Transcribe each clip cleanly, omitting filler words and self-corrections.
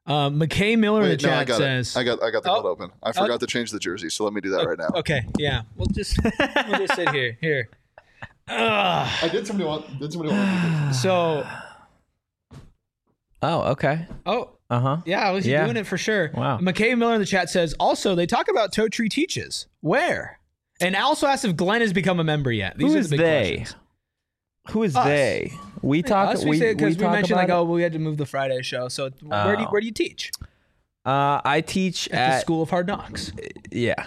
McKay Miller in the chat says, I got the code open. I forgot to change the jersey, so let me do that right now. Okay, yeah. We'll just sit here. Here. Did somebody want So. Oh, okay. Oh. Yeah, I was doing it for sure. Wow. McKay Miller in the chat says, also, they talk about Toe Tree Teaches. Where? And also asks if Glenn has become a member yet. These Who are is the big they? questions. Who is Us. they? We talk. We mentioned like, about we had to move the Friday show. So where do you teach? I teach at the School of Hard Knocks. Yeah.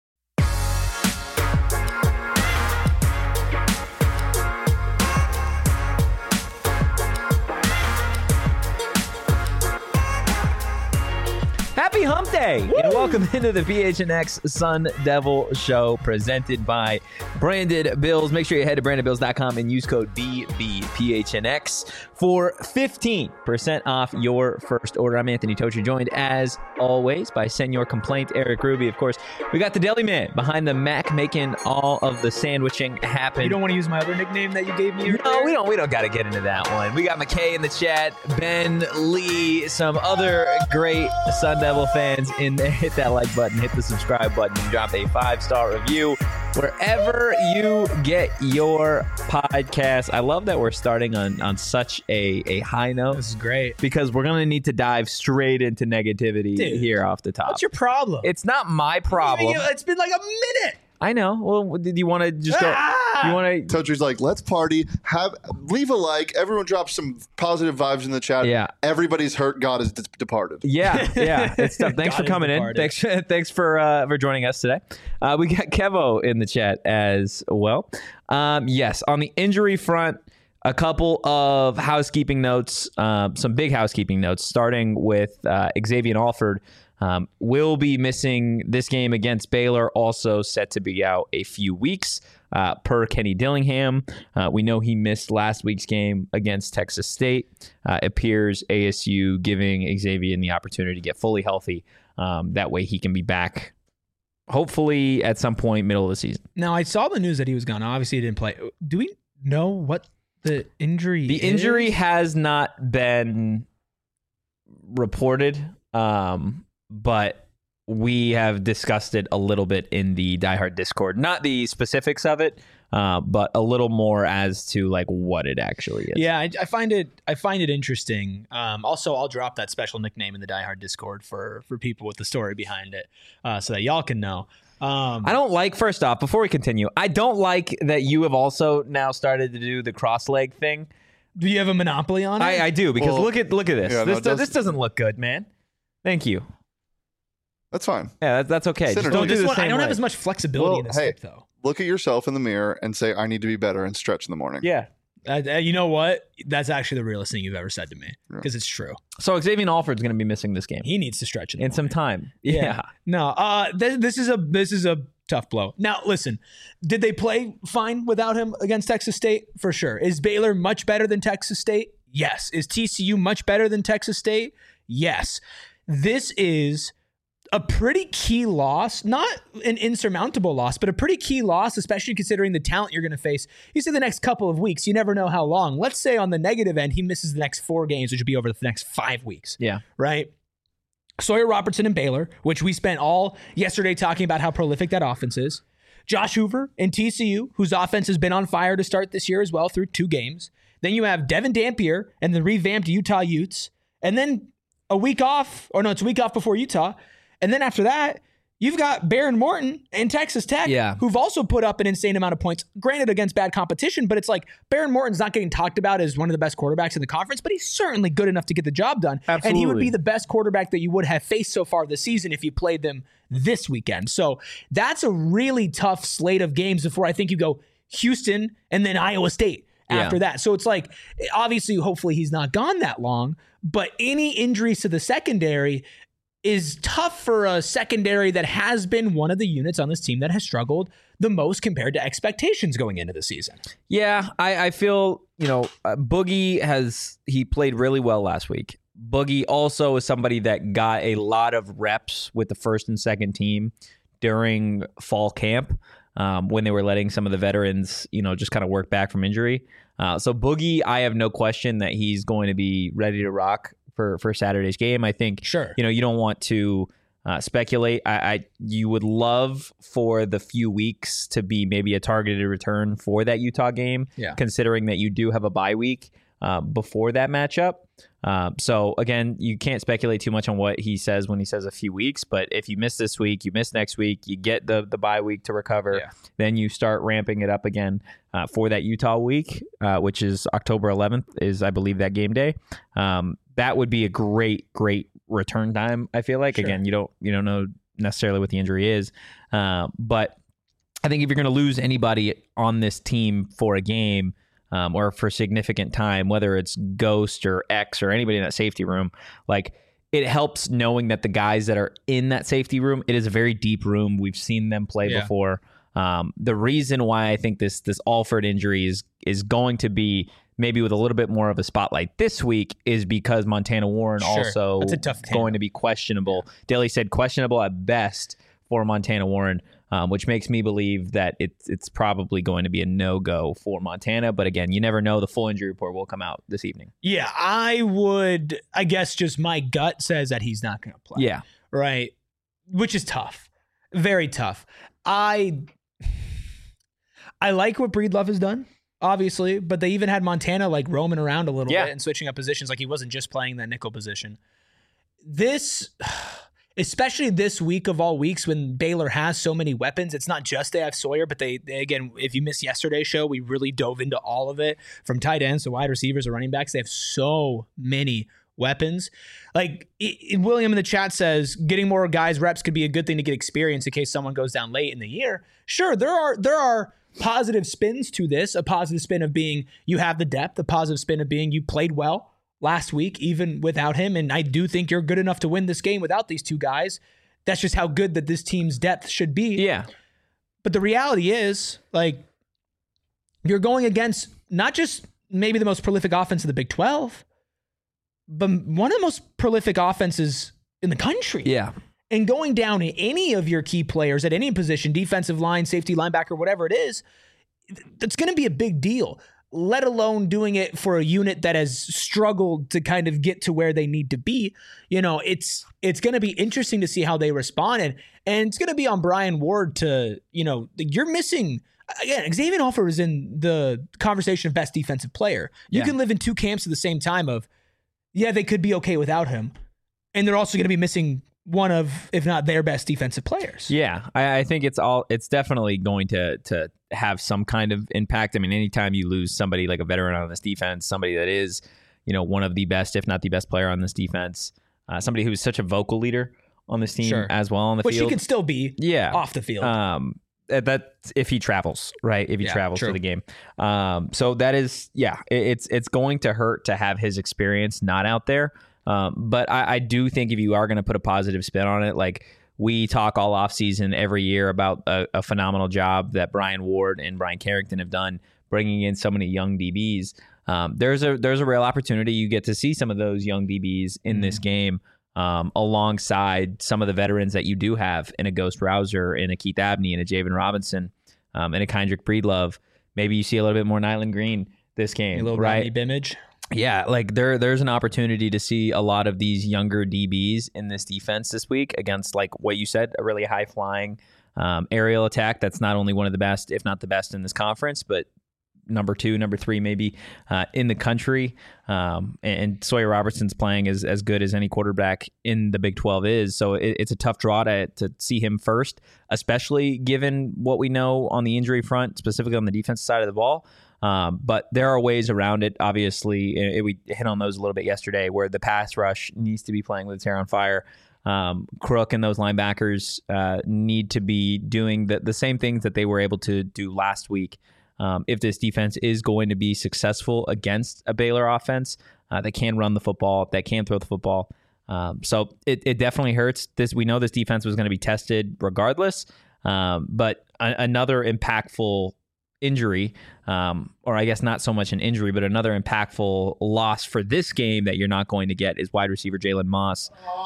Happy Hump Day! Woo! And welcome into the PHNX Sun Devil Show presented by Branded Bills. Make sure you head to brandedbills.com and use code BBPHNX for 15% off your first order. I'm Anthony Totri, joined as always by Senor Complaint, Eric Ruby. Of course, we got the Deli Man behind the Mac making all of the sandwiching happen. You don't want to use my other nickname that you gave me? No, we don't got to get into that one. We got McKay in the chat, Ben, Lee, some other great Sun Devil fans in there. Hit that like button, hit the subscribe button, and drop a 5-star review wherever you get your podcast. I love that we're starting on such a high note. This is great. Because we're going to need to dive straight into negativity here off the top. What's your problem? It's not my problem. It's been like a minute. I know. Well, did you want to just go? You want to? Totri's like, let's party. Leave a like. Everyone drop some positive vibes in the chat. Yeah. Everybody's hurt. God has departed. Yeah. It's tough. Thanks for coming in. Thanks for joining us today. We got Kevo in the chat as well. Yes, on the injury front, a couple of housekeeping notes. Some big housekeeping notes. Starting with Xavier Alford. Will be missing this game against Baylor, also set to be out a few weeks, per Kenny Dillingham. We know he missed last week's game against Texas State. Appears ASU giving Xavier the opportunity to get fully healthy. That way he can be back, hopefully at some point middle of the season. Now, I saw the news that he was gone. Obviously, he didn't play. Do we know what the injury is? The injury has not been reported. But we have discussed it a little bit in the Die Hard Discord. Not the specifics of it, but a little more as to like what it actually is. Yeah, I find it interesting. Also, I'll drop that special nickname in the Die Hard Discord for people with the story behind it, so that y'all can know. I don't like, first off, before we continue, I don't like that you have also now started to do the cross leg thing. Do you have a monopoly on it? I do, because look at this. Yeah, this doesn't look good, man. Thank you. That's fine. Yeah, that's okay. Just don't do the same I don't have way. as much flexibility in this stick, though. Look at yourself in the mirror and say, I need to be better, and stretch in the morning. Yeah. You know what? That's actually the realest thing you've ever said to me, because it's true. So Xavier Alford's going to be missing this game. He needs to stretch in some time. Yeah. No. This is a tough blow. Now, listen. Did they play fine without him against Texas State? For sure. Is Baylor much better than Texas State? Yes. Is TCU much better than Texas State? Yes. This is a pretty key loss, not an insurmountable loss, but a pretty key loss, especially considering the talent you're going to face. You say the next couple of weeks, you never know how long. Let's say on the negative end, he misses the next 4 games, which would be over the next 5 weeks. Yeah. Right? Sawyer Robertson and Baylor, which we spent all yesterday talking about how prolific that offense is. Josh Hoover and TCU, whose offense has been on fire to start this year as well through 2 games. Then you have Devin Dampier and the revamped Utah Utes. And then it's a week off before Utah. And then after that, you've got Behren Morton and Texas Tech, who've also put up an insane amount of points, granted against bad competition, but it's like Behren Morton's not getting talked about as one of the best quarterbacks in the conference, but he's certainly good enough to get the job done. Absolutely. And he would be the best quarterback that you would have faced so far this season if you played them this weekend. So that's a really tough slate of games before I think you go Houston and then Iowa State after that. So it's like, obviously, hopefully he's not gone that long, but any injuries to the secondary is tough for a secondary that has been one of the units on this team that has struggled the most compared to expectations going into the season. Yeah, I feel, Boogie he played really well last week. Boogie also is somebody that got a lot of reps with the first and second team during fall camp when they were letting some of the veterans, just kind of work back from injury. So Boogie, I have no question that he's going to be ready to rock for Saturday's game. I think Sure. you don't want to speculate. You would love for the few weeks to be maybe a targeted return for that Utah game, considering that you do have a bye week before that matchup. So again, you can't speculate too much on what he says when he says a few weeks, but if you miss this week, you miss next week, you get the bye week to recover, then you start ramping it up again for that Utah week, which is October 11th is, I believe, that game day. That would be a great return time. I feel like, again, you don't know necessarily what the injury is. But I think if you're going to lose anybody on this team for a game, or for significant time, whether it's Ghost or X or anybody in that safety room, like, it helps knowing that the guys that are in that safety room, it is a very deep room. We've seen them play before. The reason why I think this Alford injury is going to be maybe with a little bit more of a spotlight this week is because Montana Warren also going to be questionable. Daly said questionable at best for Montana Warren, which makes me believe that it's probably going to be a no-go for Montana. But again, you never know. The full injury report will come out this evening. Yeah, I guess just my gut says that he's not going to play. Yeah. Right. Which is tough. Very tough. I like what Breedlove has done, obviously, but they even had Montana like roaming around a little bit and switching up positions. Like, he wasn't just playing that nickel position. Especially this week of all weeks when Baylor has so many weapons. It's not just they have Sawyer, but they again, if you missed yesterday's show, we really dove into all of it, from tight ends to wide receivers to running backs. They have so many weapons. Like, William in the chat says, getting more guys reps could be a good thing to get experience in case someone goes down late in the year. Sure, there are positive spins to this. A positive spin of being you have the depth. A positive spin of being you played well last week, even without him. And I do think you're good enough to win this game without these two guys. That's just how good that this team's depth should be. Yeah. But the reality is, like, you're going against not just maybe the most prolific offense of the Big 12, but one of the most prolific offenses in the country. Yeah. And going down any of your key players at any position, defensive line, safety, linebacker, whatever it is, that's going to be a big deal, let alone doing it for a unit that has struggled to kind of get to where they need to be. It's going to be interesting to see how they respond. And it's going to be on Brian Ward to, you're missing, again, Xavier Alford is in the conversation of best defensive player. You can live in two camps at the same time of, they could be okay without him. And they're also going to be missing one of, if not their best defensive players. Yeah, I think it's definitely going to have some kind of impact. I mean, anytime you lose somebody like a veteran on this defense, somebody that is, one of the best, if not the best player on this defense, somebody who's such a vocal leader on this team as well on the field. Which he could still be off the field. That if he travels, right? If he travels to the game. So that is, it's going to hurt to have his experience not out there. But I do think if you are going to put a positive spin on it, like, we talk all offseason every year about a phenomenal job that Brian Ward and Brian Carrington have done bringing in so many young DBs. There's a real opportunity. You get to see some of those young DBs in this game alongside some of the veterans that you do have in a Ghost Rouser, in a Keith Abney, in a Javen Robinson, in a Kendrick Breedlove. Maybe you see a little bit more Nyland Green this game, a little right? Bimage. Yeah, like there's an opportunity to see a lot of these younger DBs in this defense this week against, like what you said, a really high-flying aerial attack that's not only one of the best, if not the best in this conference, but number 2, number 3 maybe in the country. And Sawyer Robertson's playing as good as any quarterback in the Big 12 is. So it's a tough draw to see him first, especially given what we know on the injury front, specifically on the defensive side of the ball. But there are ways around it. Obviously, we hit on those a little bit yesterday, where the pass rush needs to be playing with its hair on fire. Crook and those linebackers need to be doing the same things that they were able to do last week. If this defense is going to be successful against a Baylor offense that can run the football, that can throw the football. So it definitely hurts. We know this defense was going to be tested regardless. But another impactful injury, or I guess not so much an injury, but another impactful loss for this game that you're not going to get is wide receiver Jalen Moss.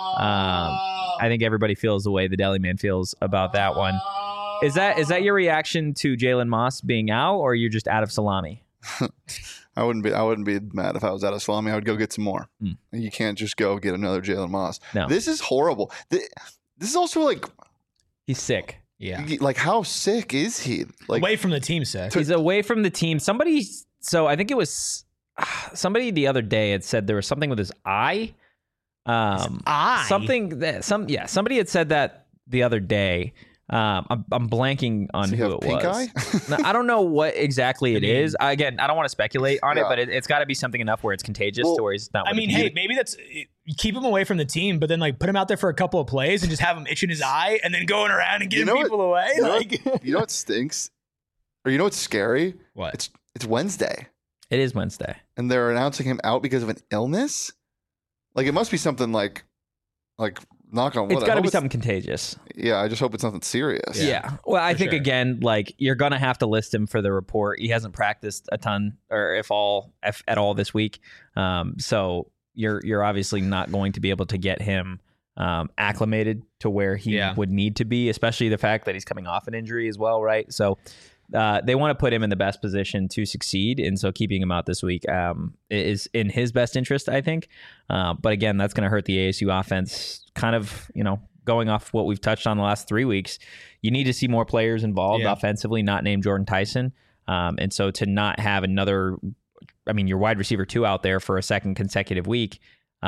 I think everybody feels the way the Deli Man feels about that one. Is that your reaction to Jalen Moss being out, or you're just out of salami? I wouldn't be mad if I was out of salami. I would go get some more. You can't just go get another Jalen Moss. No. This is horrible. This is also like he's sick. Yeah. Like how sick is he? Like away from the team, sick. He's away from the team. So I think it was somebody the other day had said there was something with his eye. Eye. Somebody had said that the other day. I'm blanking on who it pink was. Eye? Now, I don't know what exactly it is. Again, I don't want to speculate on it, but it's got to be something enough where it's contagious to where he's not. I mean, hey, maybe that's keep him away from the team, but then like put him out there for a couple of plays and just have him itching his eye and then going around and getting people away. You know what stinks? Or you know what's scary? What? It's Wednesday. It is Wednesday, and they're announcing him out because of an illness. Like it must be something like knock on wood. It's got to be something contagious. Yeah, I just hope it's nothing serious. Yeah. Well, I think again, like you're gonna have to list him for the report. He hasn't practiced a ton, or if at all this week. So you're obviously not going to be able to get him acclimated to where he would need to be, especially the fact that he's coming off an injury as well, right? So they want to put him in the best position to succeed, and so keeping him out this week is in his best interest, I think. But again, that's going to hurt the ASU offense. Kind of, going off what we've touched on the last 3 weeks, you need to see more players involved offensively, not named Jordan Tyson. And so to not have your wide receiver 2 out there for a second consecutive week,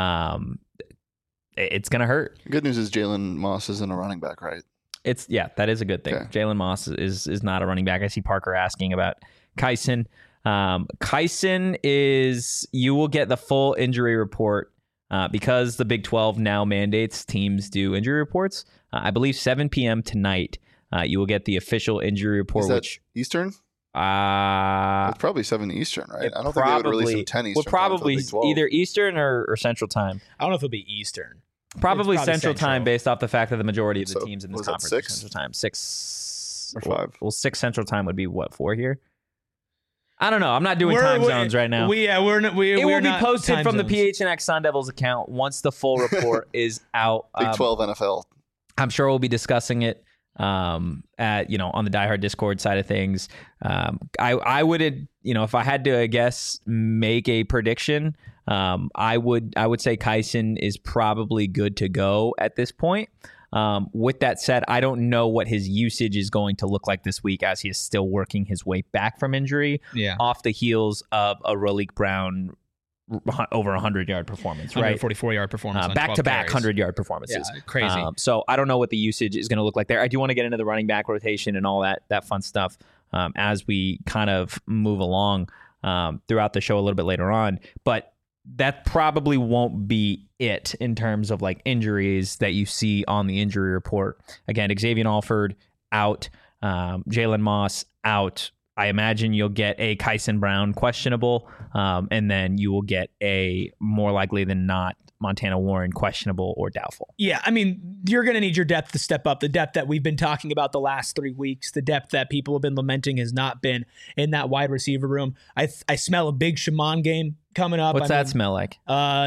it's going to hurt. Good news is Jalen Moss isn't a running back, right? That is a good thing. Okay. Jalen Moss is not a running back. I see Parker asking about Kyson. Kyson you will get the full injury report because the Big 12 now mandates teams do injury reports. I believe 7 p.m. tonight, you will get the official injury report. Is that Eastern? It's probably 7 Eastern, right? I don't think they would release them 10 Eastern. Well, probably either Eastern or Central Time. I don't know if it'll be Eastern. Probably Central Time, based off the fact that the majority of the teams in this conference are 6? Central Time. 6 or 5. Well, 6 Central Time would be what, 4 here? I don't know. I'm not doing time zones right now. It will be posted from the PHNX Sun Devils account once the full report is out. Big 12 NFL. I'm sure we'll be discussing it on the Die Hard Discord side of things. I would, if I had to, I guess, make a prediction, I would say Kyson is probably good to go at this point. With that said, I don't know what his usage is going to look like this week as he is still working his way back from injury off the heels of a Raleek Brown over 100-yard performance, right? 144-yard performance. Back-to-back 100-yard performances. Yeah, crazy. So I don't know what the usage is going to look like there. I do want to get into the running back rotation and all that fun stuff as we kind of move along throughout the show a little bit later on. But that probably won't be it in terms of like injuries that you see on the injury report. Again, Xavier Alford out, Jalen Moss out. I imagine you'll get a Kyson Brown questionable, and then you will get a more likely than not Montana Warren questionable or doubtful. Yeah, I mean, you're going to need your depth to step up. The depth that we've been talking about the last 3 weeks, the depth that people have been lamenting has not been in that wide receiver room. I smell a big Shaman game coming up. What's that smell like?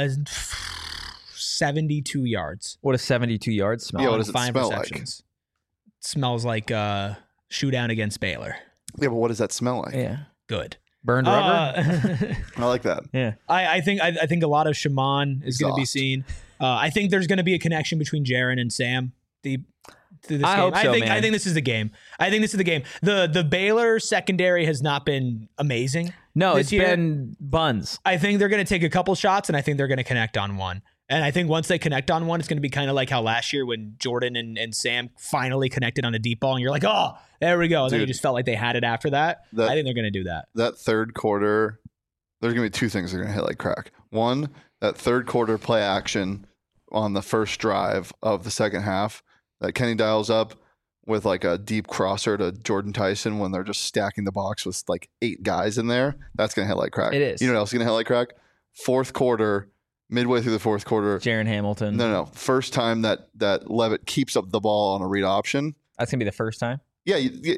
72 yards. What does 72 yards smell? Yeah, what does it smell like? It smells like showdown against Baylor. Yeah, but what does that smell like? Yeah, good. Burned rubber. I like that. Yeah, I think a lot of Shaman is going to be seen. I think there's going to be a connection between Jaron and Sam. Through this I game. hope so, man. I think this is the game. The Baylor secondary has not been amazing. No, it's been buns. I think they're going to take a couple shots, and I think they're going to connect on one. And I think once they connect on one, it's going to be kind of like how last year when Jordan and Sam finally connected on a deep ball, and you're like, oh, there we go. And then you just felt like they had it after that. I think they're going to do that. That third quarter, there's going to be 2 things that are going to hit like crack. One, that third quarter play action on the first drive of the second half that Kenny dials up with like a deep crosser to Jordan Tyson when they're just stacking the box with like 8 guys in there. That's going to hit like crack. It is. You know what else is going to hit like crack? Fourth quarter. Midway through the fourth quarter, Jaron Hamilton. No. First time that Levitt keeps up the ball on a read option. That's gonna be the first time. Yeah,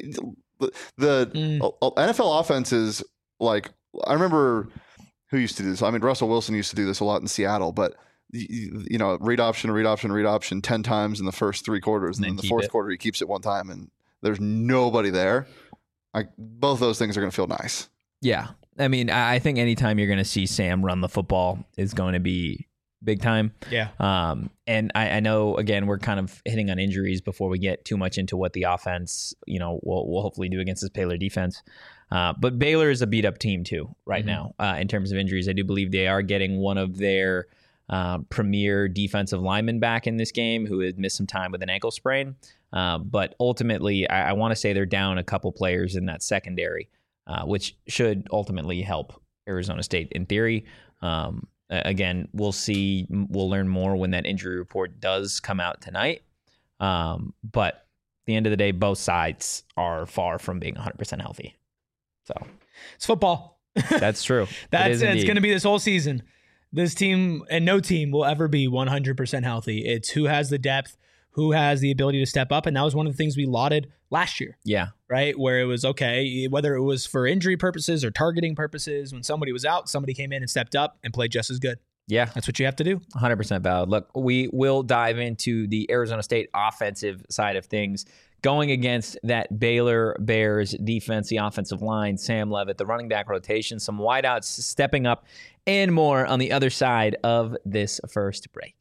the NFL offenses, like I remember who used to do this. I mean, Russell Wilson used to do this a lot in Seattle, but read option 10 times in the first 3 quarters, and then in the fourth quarter he keeps it 1 time, and there's nobody there. Both those things are gonna feel nice. Yeah. I mean, I think anytime you're going to see Sam run the football is going to be big time. Yeah. And I know, again, we're kind of hitting on injuries before we get too much into what the offense, will hopefully do against this Baylor defense. But Baylor is a beat up team too right now in terms of injuries. I do believe they are getting one of their premier defensive linemen back in this game who had missed some time with an ankle sprain. But ultimately, I want to say they're down a couple players in that secondary, which should ultimately help Arizona State in theory. Again, we'll see. We'll learn more when that injury report does come out tonight. But at the end of the day, both sides are far from being 100% healthy. So it's football. That's true. It's going to be this whole season. This team and no team will ever be 100% healthy. It's who has the depth, who has the ability to step up. And that was one of the things we lauded last year. Yeah. Right? Where it was okay, whether it was for injury purposes or targeting purposes, when somebody was out, somebody came in and stepped up and played just as good. Yeah. That's what you have to do. 100% valid. Look, we will dive into the Arizona State offensive side of things. Going against that Baylor Bears defense, the offensive line, Sam Levitt, the running back rotation, some wideouts stepping up, and more on the other side of this first break.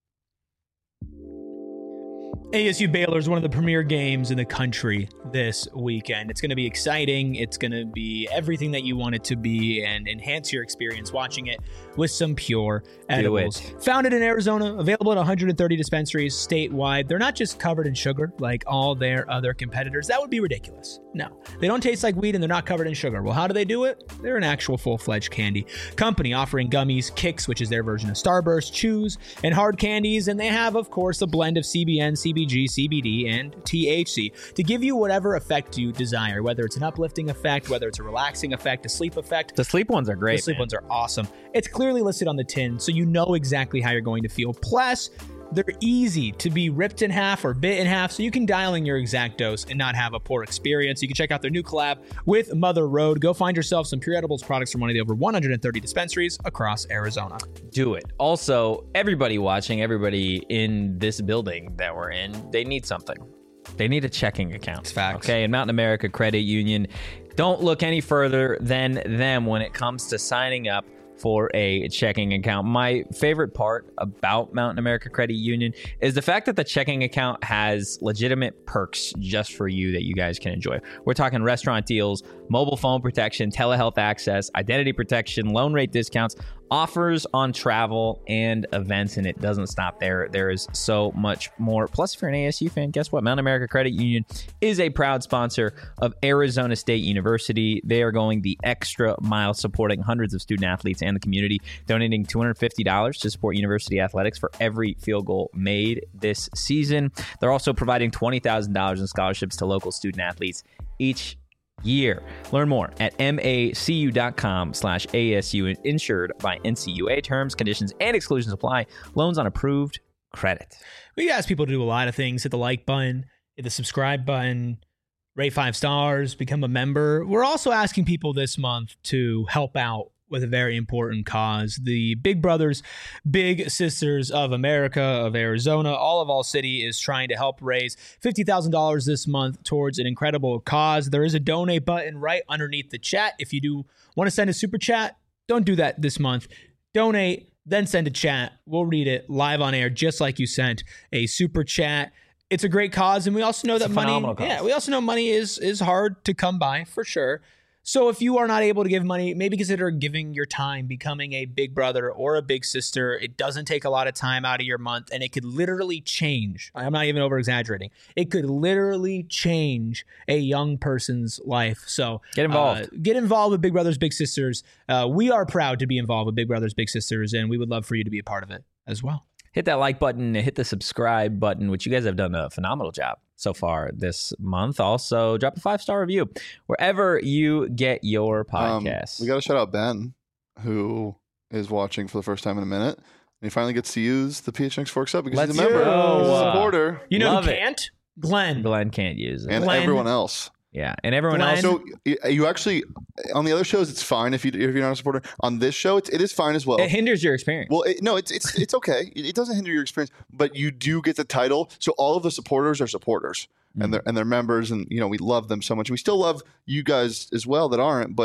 ASU Baylor is one of the premier games in the country this weekend. It's going to be exciting. It's going to be everything that you want it to be and enhance your experience watching it with some pure edibles. Founded in Arizona, available at 130 dispensaries statewide. They're not just covered in sugar like all their other competitors. That would be ridiculous. No, they don't taste like weed and they're not covered in sugar. Well, how do they do it? They're an actual full-fledged candy company offering gummies, Kicks, which is their version of Starburst, chews, and hard candies. And they have, of course, a blend of CBN, CBG, CBD, and THC to give you whatever effect you desire, whether it's an uplifting effect, whether it's a relaxing effect, a sleep effect. The sleep ones are great. The sleep ones are awesome. It's clearly listed on the tin, so you know exactly how you're going to feel. Plus, they're easy to be ripped in half or bit in half, so you can dial in your exact dose and not have a poor experience. You can check out their new collab with Mother Road. Go find yourself some Pure Edibles products from one of the over 130 dispensaries across Arizona. Do it. Also, everybody watching, everybody in this building that we're in, they need something. They need a checking account. It's facts. Okay, and Mountain America Credit Union, don't look any further than them when it comes to signing up for a checking account. My favorite part about Mountain America Credit Union is the fact that the checking account has legitimate perks just for you that you guys can enjoy. We're talking restaurant deals, mobile phone protection, telehealth access, identity protection, loan rate discounts, offers on travel and events, and it doesn't stop there. There is so much more. Plus, if you're an ASU fan, guess what? Mountain America Credit Union is a proud sponsor of Arizona State University. They are going the extra mile, supporting hundreds of student athletes and the community, donating $250 to support university athletics for every field goal made this season. They're also providing $20,000 in scholarships to local student athletes each year. Learn more at macu.com/ASU, insured by NCUA. Terms, conditions, and exclusions apply. Loans on approved credit. We ask people to do a lot of things. Hit the like button, hit the subscribe button, rate 5 stars, become a member. We're also asking people this month to help out with a very important cause. The Big Brothers, Big Sisters of America of Arizona, all of All City, is trying to help raise $50,000 this month towards an incredible cause. There is a donate button right underneath the chat. If you do want to send a super chat, don't do that this month. Donate, then send a chat. We'll read it live on air, just like you sent a super chat. It's a great cause, and we also know that money. Yeah, we also know money is hard to come by for sure. So if you are not able to give money, maybe consider giving your time, becoming a big brother or a big sister. It doesn't take a lot of time out of your month, and it could literally change. I'm not even over exaggerating. It could literally change a young person's life. So get involved. Get involved with Big Brothers, Big Sisters. We are proud to be involved with Big Brothers, Big Sisters, and we would love for you to be a part of it as well. Hit that like button, hit the subscribe button, which you guys have done a phenomenal job so far this month. Also, drop a 5-star review wherever you get your podcasts. We got to shout out Ben, who is watching for the first time in a minute. And he finally gets to use the PHNX Forks up because he's a member. He's a supporter. You know who can't? Glenn. Glenn can't use it. And everyone else. Yeah, and everyone else. So you actually, on the other shows, it's fine if you're not a supporter. On this show, it is fine as well. It hinders your experience. Well, it's okay. It doesn't hinder your experience, but you do get the title. So all of the supporters are supporters, and they're members, and we love them so much. We still love you guys as well that aren't, but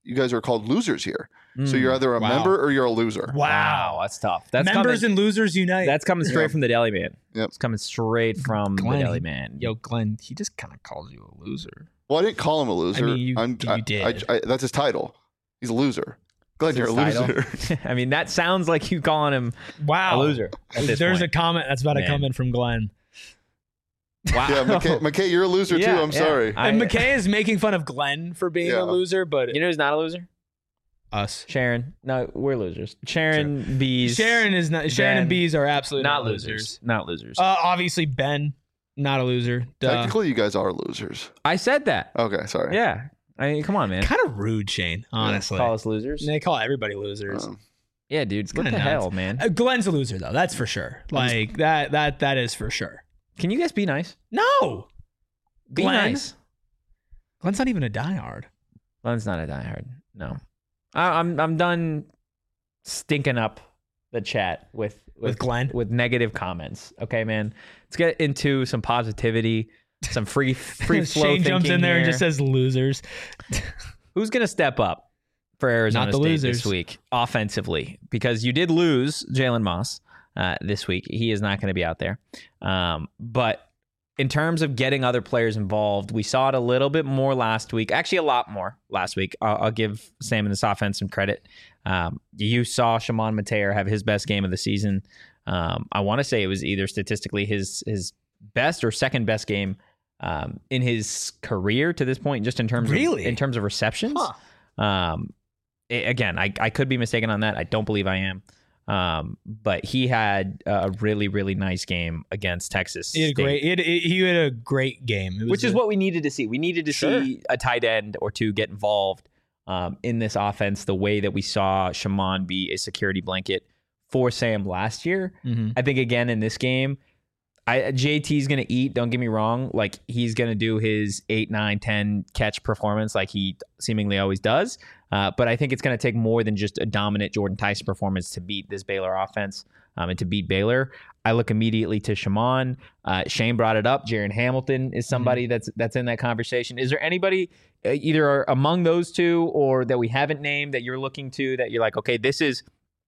you guys are called losers here. So you're either a member or you're a loser. Wow, that's tough. That's Members and losers unite. That's coming straight from the Deli Man. Yep. It's coming straight from Glenn, the Deli Man. Yo, Glenn, he just kind of calls you a loser. Well, I didn't call him a loser. I mean, you did. That's his title. He's a loser. Glenn, you're a loser. I mean, that sounds like you calling him a loser. There's a comment that's about to come in from Glenn. Wow. Yeah, McKay, you're a loser too. I'm sorry. And McKay is making fun of Glenn for being a loser, but you know who's not a loser? Us. Sharon. No, we're losers. Sharon, Bees. Sharon is not. Sharon and Bees are absolutely not losers. Not losers. Obviously Ben, not a loser. Duh. Technically, you guys are losers. I said that. Okay, sorry. Yeah. I mean, come on, man. Kind of rude, Shane. Honestly, call us losers. They call everybody losers. Yeah, dude. What the hell, man? Glenn's a loser though. That's for sure. Like that is for sure. Can you guys be nice? No. Be nice. Glenn's not even a diehard. Glenn's not a diehard. No. I'm done stinking up the chat with Glenn with negative comments. Okay, man. Let's get into some positivity, some free flow. Shane jumps in there and just says losers. Who's gonna step up for Arizona State this week offensively? Because you did lose Jalen Moss this week. He is not going to be out there. But in terms of getting other players involved, we saw it a little bit more last week. Actually, a lot more last week. I'll give Sam and this offense some credit. You saw Shimon Mateer have his best game of the season. I want to say it was either statistically his best or second best game in his career to this point, just in terms of receptions. Again, I could be mistaken on that. I don't believe I am. But he had a really, really nice game against Texas. He had a great game, which is what we needed to see. We needed to see a tight end or two get involved in this offense the way that we saw Shimon be a security blanket for Sam last year. Mm-hmm. I think again in this game, JT's going to eat. Don't get me wrong. Like he's going to do his 8, 9, 10 catch performance like he seemingly always does. But I think it's going to take more than just a dominant Jordan Tyson performance to beat this Baylor offense and to beat Baylor. I look immediately to Shimon. Shane brought it up. Jaron Hamilton is somebody that's in that conversation. Is there anybody either among those two or that we haven't named that you're looking to that you're like, okay, this is,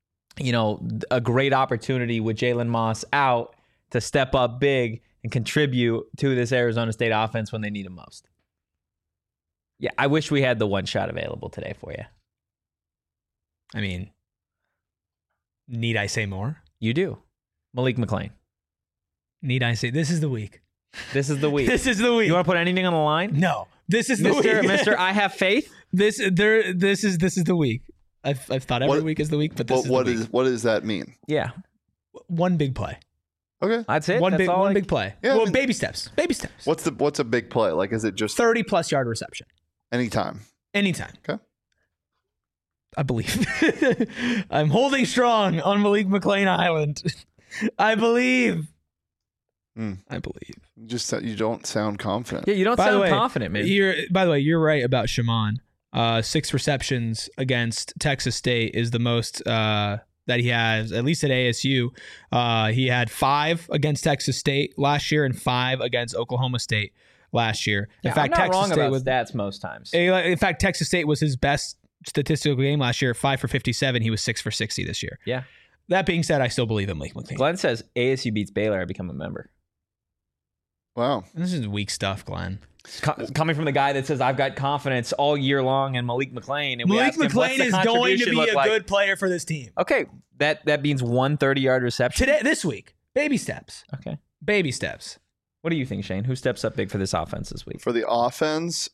a great opportunity with Jalen Moss out to step up big and contribute to this Arizona State offense when they need him most? Yeah, I wish we had the one shot available today for you. I mean, need I say more? You do. Malik McClain. Need I say, this is the week. This is the week. This is the week. You want to put anything on the line? No. This is the week. Mr. I have faith. This is the week. I've thought every week is the week, but this is the week. What does that mean? Yeah. One big play. Okay. That's it. One big play. Yeah, well, baby steps. Baby steps. What's a big play? Like, is it just 30+ yard reception? Anytime. Okay. I believe. I'm holding strong on Malik McClain Island. I believe. I believe. You don't sound confident. Yeah, you don't sound confident, man. By the way, you're right about Shimon. 6 receptions against Texas State is the most that he has, at least at ASU. He had 5 against Texas State last year and 5 against Oklahoma State last year. In fact, I'm not Texas wrong State about stats most times. In fact, Texas State was his best statistical game last year, 5 for 57. He was 6 for 60 this year. Yeah. That being said, I still believe in Malik McClain. Glenn says ASU beats Baylor, I become a member. Wow. This is weak stuff, Glenn. Coming from the guy that says I've got confidence all year long in Malik McClain. And Malik McClain is going to be a good player for this team. Okay. That means 1 30-yard reception. This week. Baby steps. Okay. Baby steps. What do you think, Shane? Who steps up big for this offense this week? For the offense,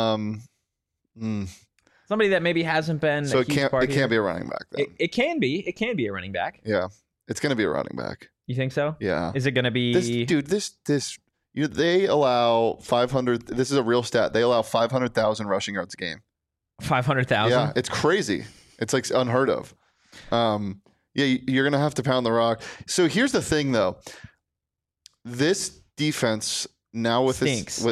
somebody that maybe hasn't been. So it can't be a running back then. It can be. It can be a running back. Yeah. It's going to be a running back. You think so? Yeah. Is it going to be they allow 500. This is a real stat. They allow 500,000 rushing yards a game. 500,000? Yeah, it's crazy. It's like unheard of. You're going to have to pound the rock. So here's the thing, though. This defense now with stinks.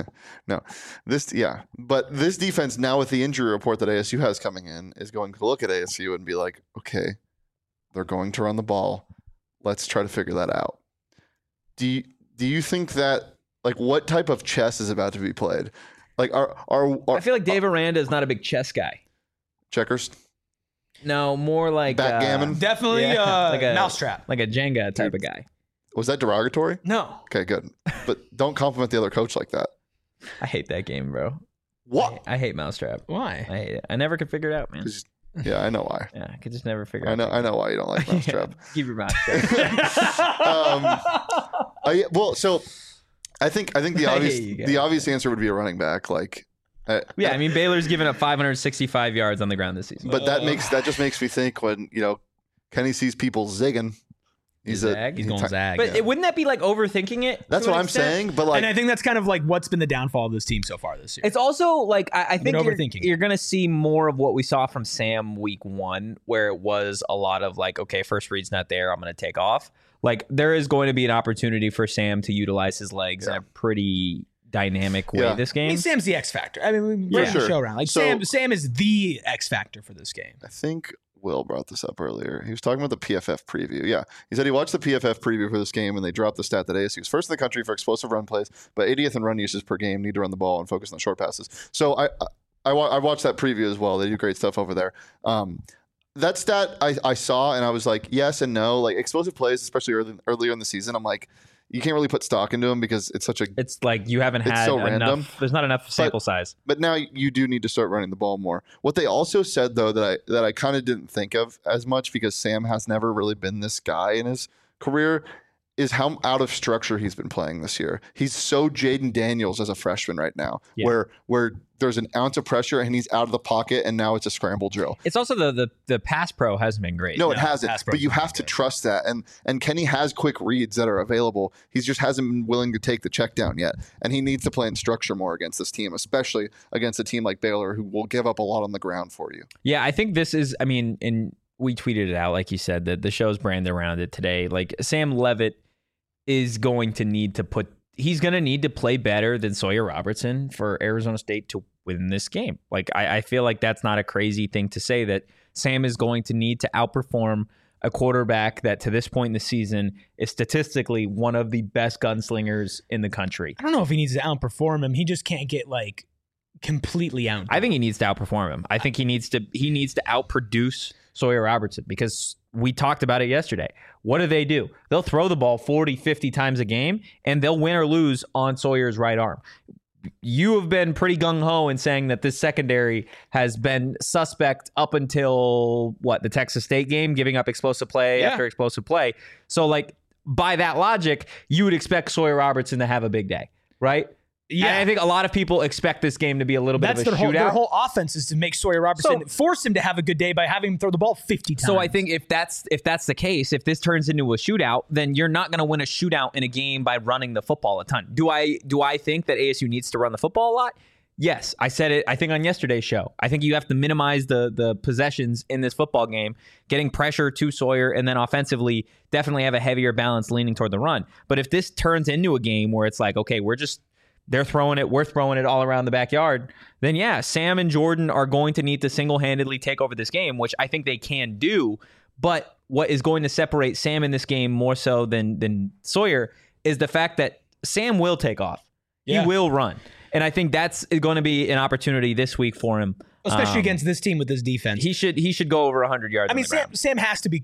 But this defense now with the injury report that ASU has coming in is going to look at ASU and be like, okay, they're going to run the ball. Let's try to figure that out. Do you think that, like, what type of chess is about to be played? Like, I feel like Dave Aranda is not a big chess guy. Checkers? No, more like backgammon. Definitely like a mousetrap, like a Jenga type of guy. Was that derogatory? No. Okay, good. But don't compliment the other coach like that. I hate that game, bro. What? I hate Mousetrap. Why? I hate it. I never could figure it out, man. Yeah, I know why. Yeah, I could just never figure I out. know why you don't like Mousetrap. Keep your mouth shut. So I think the obvious answer would be a running back. Like, yeah, I mean Baylor's given up 565 yards on the ground this season. But that just makes me think when Kenny sees people zigging. He's going zag. But wouldn't that be like overthinking it? That's what I'm saying. But and I think that's kind of like what's been the downfall of this team so far this year. It's also like I think you're going to see more of what we saw from Sam week 1, where it was a lot of like, okay, first read's not there, I'm going to take off. Like there is going to be an opportunity for Sam to utilize his legs in a pretty dynamic way this game. I mean, Sam's the X factor. I mean, we bring the show around. Like Sam is the X factor for this game. I think Will brought this up earlier. He was talking about the PFF preview. Yeah. He said he watched the PFF preview for this game and they dropped the stat that ASU is first in the country for explosive run plays, but 80th in run usage per game, need to run the ball and focus on short passes. So I watched that preview as well. They do great stuff over there. That stat I saw and I was like, yes and no. Like explosive plays, especially earlier in the season, I'm like, you can't really put stock into them because it's like you haven't had so enough. Random. There's not enough sample size. But now you do need to start running the ball more. What they also said though that I kind of didn't think of as much because Sam has never really been this guy in his career is how out of structure he's been playing this year. He's so Jaden Daniels as a freshman right now, where there's an ounce of pressure and he's out of the pocket and now it's a scramble drill. It's also the pass pro hasn't been great. No, it hasn't. But you have to trust that. And Kenny has quick reads that are available. He just hasn't been willing to take the check down yet. And he needs to play in structure more against this team, especially against a team like Baylor who will give up a lot on the ground for you. Yeah, I think this is, we tweeted it out, like you said, that the show's branded around it today. Like Sam Leavitt is going to need to play better than Sawyer Robertson for Arizona State to win this game. Like I feel like that's not a crazy thing to say, that Sam is going to need to outperform a quarterback that to this point in the season is statistically one of the best gunslingers in the country. I don't know if he needs to outperform him. He just can't get like completely out. I think he needs to outperform him. I think he needs to outproduce Sawyer Robertson because we talked about it yesterday. What do? They'll throw the ball 40, 50 times a game, and they'll win or lose on Sawyer's right arm. You have been pretty gung-ho in saying that this secondary has been suspect up until, the Texas State game, giving up explosive play after explosive play. So, like, by that logic, you would expect Sawyer Robertson to have a big day, right? Yeah, and I think a lot of people expect this game to be a little bit of a shootout. Their whole offense is to make Sawyer Robertson force him to have a good day by having him throw the ball 50 times. So I think if that's the case, if this turns into a shootout, then you're not going to win a shootout in a game by running the football a ton. Do I think that ASU needs to run the football a lot? Yes, I said it, I think, on yesterday's show. I think you have to minimize the possessions in this football game, getting pressure to Sawyer, and then offensively definitely have a heavier balance leaning toward the run. But if this turns into a game where it's like, okay, they're throwing it, we're throwing it all around the backyard, then yeah, Sam and Jordan are going to need to single-handedly take over this game, which I think they can do. But what is going to separate Sam in this game more so than Sawyer is the fact that Sam will take off. Yeah. He will run. And I think that's going to be an opportunity this week for him. Especially against this team with this defense. He should go over 100 yards. I mean, Sam has to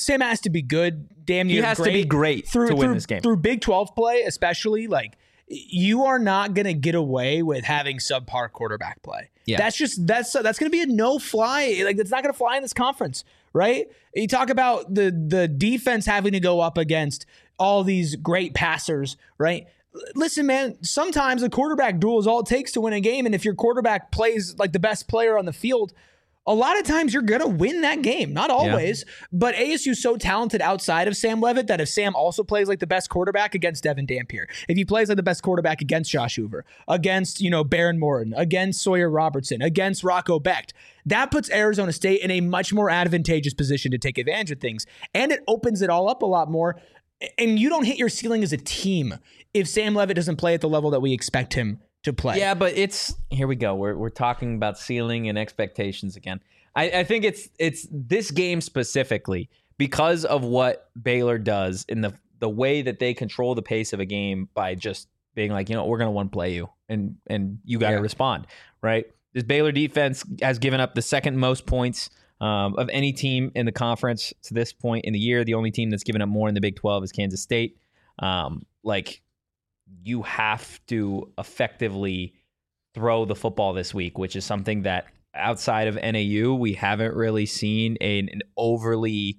be good. Damn near he has to be great to win this game. Through Big 12 play, especially, like, you are not going to get away with having subpar quarterback play. Yeah. That's going to be a no-fly. Like, that's not going to fly in this conference, right? You talk about the defense having to go up against all these great passers, right? Listen, man, sometimes a quarterback duel is all it takes to win a game, and if your quarterback plays like the best player on the field, a lot of times you're going to win that game. Not always, but ASU's so talented outside of Sam Leavitt that if Sam also plays like the best quarterback against Devin Dampier, if he plays like the best quarterback against Josh Hoover, against, Baron Morton, against Sawyer Robertson, against Rocco Becht, that puts Arizona State in a much more advantageous position to take advantage of things. And it opens it all up a lot more. And you don't hit your ceiling as a team if Sam Leavitt doesn't play at the level that we expect him to play. Yeah, but here we go. We're talking about ceiling and expectations again. I think it's this game specifically because of what Baylor does in the way that they control the pace of a game by just being like, we're going to one play you and you got to respond, right? This Baylor defense has given up the second most points of any team in the conference to this point in the year. The only team that's given up more in the Big 12 is Kansas State. You have to effectively throw the football this week, which is something that outside of NAU, we haven't really seen an overly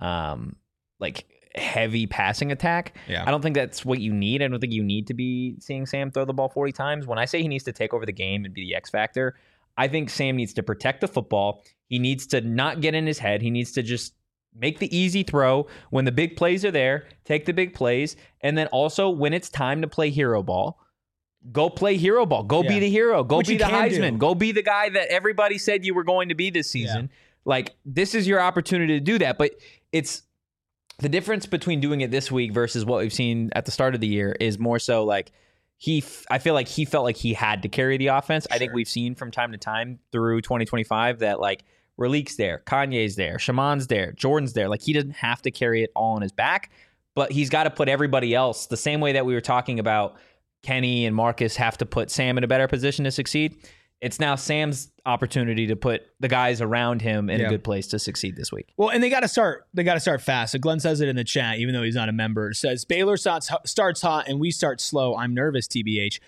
heavy passing attack. Yeah. I don't think that's what you need. I don't think you need to be seeing Sam throw the ball 40 times. When I say he needs to take over the game and be the X factor, I think Sam needs to protect the football. He needs to not get in his head. He needs to just make the easy throw when the big plays are there, take the big plays, and then also when it's time to play hero ball, go play hero ball. Go be the hero. Go be the Heisman. Go be the guy that everybody said you were going to be this season. Yeah. This is your opportunity to do that. But it's the difference between doing it this week versus what we've seen at the start of the year is more so I feel like he felt like he had to carry the offense. Sure. I think we've seen from time to time through 2025 that Ralik's there, Kanye's there, Shaman's there, Jordan's there. He doesn't have to carry it all on his back, but he's got to put everybody else the same way that we were talking about Kenny and Marcus have to put Sam in a better position to succeed. It's now Sam's opportunity to put the guys around him in a good place to succeed this week. Well, and they got to start fast. So Glenn says it in the chat, even though he's not a member. It says Baylor starts hot and we start slow. I'm nervous, TBH.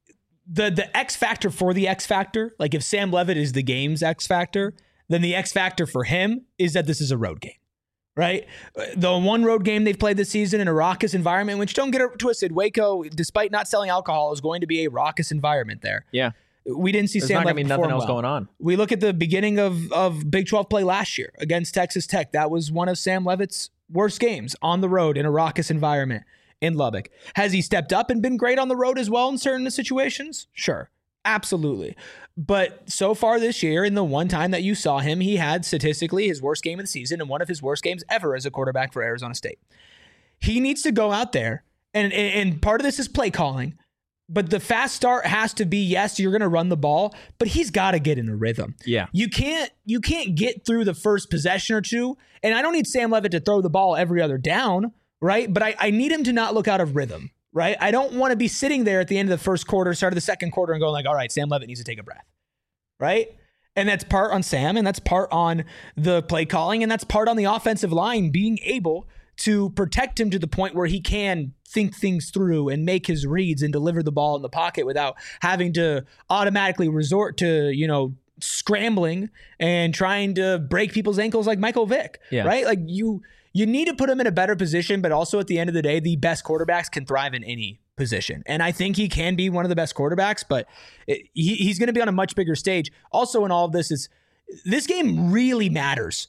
The X factor for the X factor, if Sam Leavitt is the game's X factor, then the X factor for him is that this is a road game. Right? The one road game they've played this season in a raucous environment, which don't get it twisted, Waco, despite not selling alcohol, is going to be a raucous environment there. Yeah. We didn't see Sam Leavitt nothing else going on. We look at the beginning of Big 12 play last year against Texas Tech. That was one of Sam Leavitt's worst games on the road in a raucous environment in Lubbock. Has he stepped up and been great on the road as well in certain situations? Sure. Absolutely. But so far this year, in the one time that you saw him, he had statistically his worst game of the season and one of his worst games ever as a quarterback for Arizona State. He needs to go out there, and part of this is play calling, but the fast start has to be, yes, you're going to run the ball, but he's got to get in a rhythm. Yeah. You can't get through the first possession or two, and I don't need Sam Leavitt to throw the ball every other down, right? But I need him to not look out of rhythm. Right? I don't want to be sitting there at the end of the first quarter, start of the second quarter, and going all right, Sam Leavitt needs to take a breath. Right? And that's part on Sam, and that's part on the play calling, and that's part on the offensive line being able to protect him to the point where he can think things through and make his reads and deliver the ball in the pocket without having to automatically resort to, scrambling and trying to break people's ankles like Michael Vick. Yeah. Right? You need to put him in a better position, but also at the end of the day, the best quarterbacks can thrive in any position. And I think he can be one of the best quarterbacks, but he's going to be on a much bigger stage. Also in all of this this game really matters.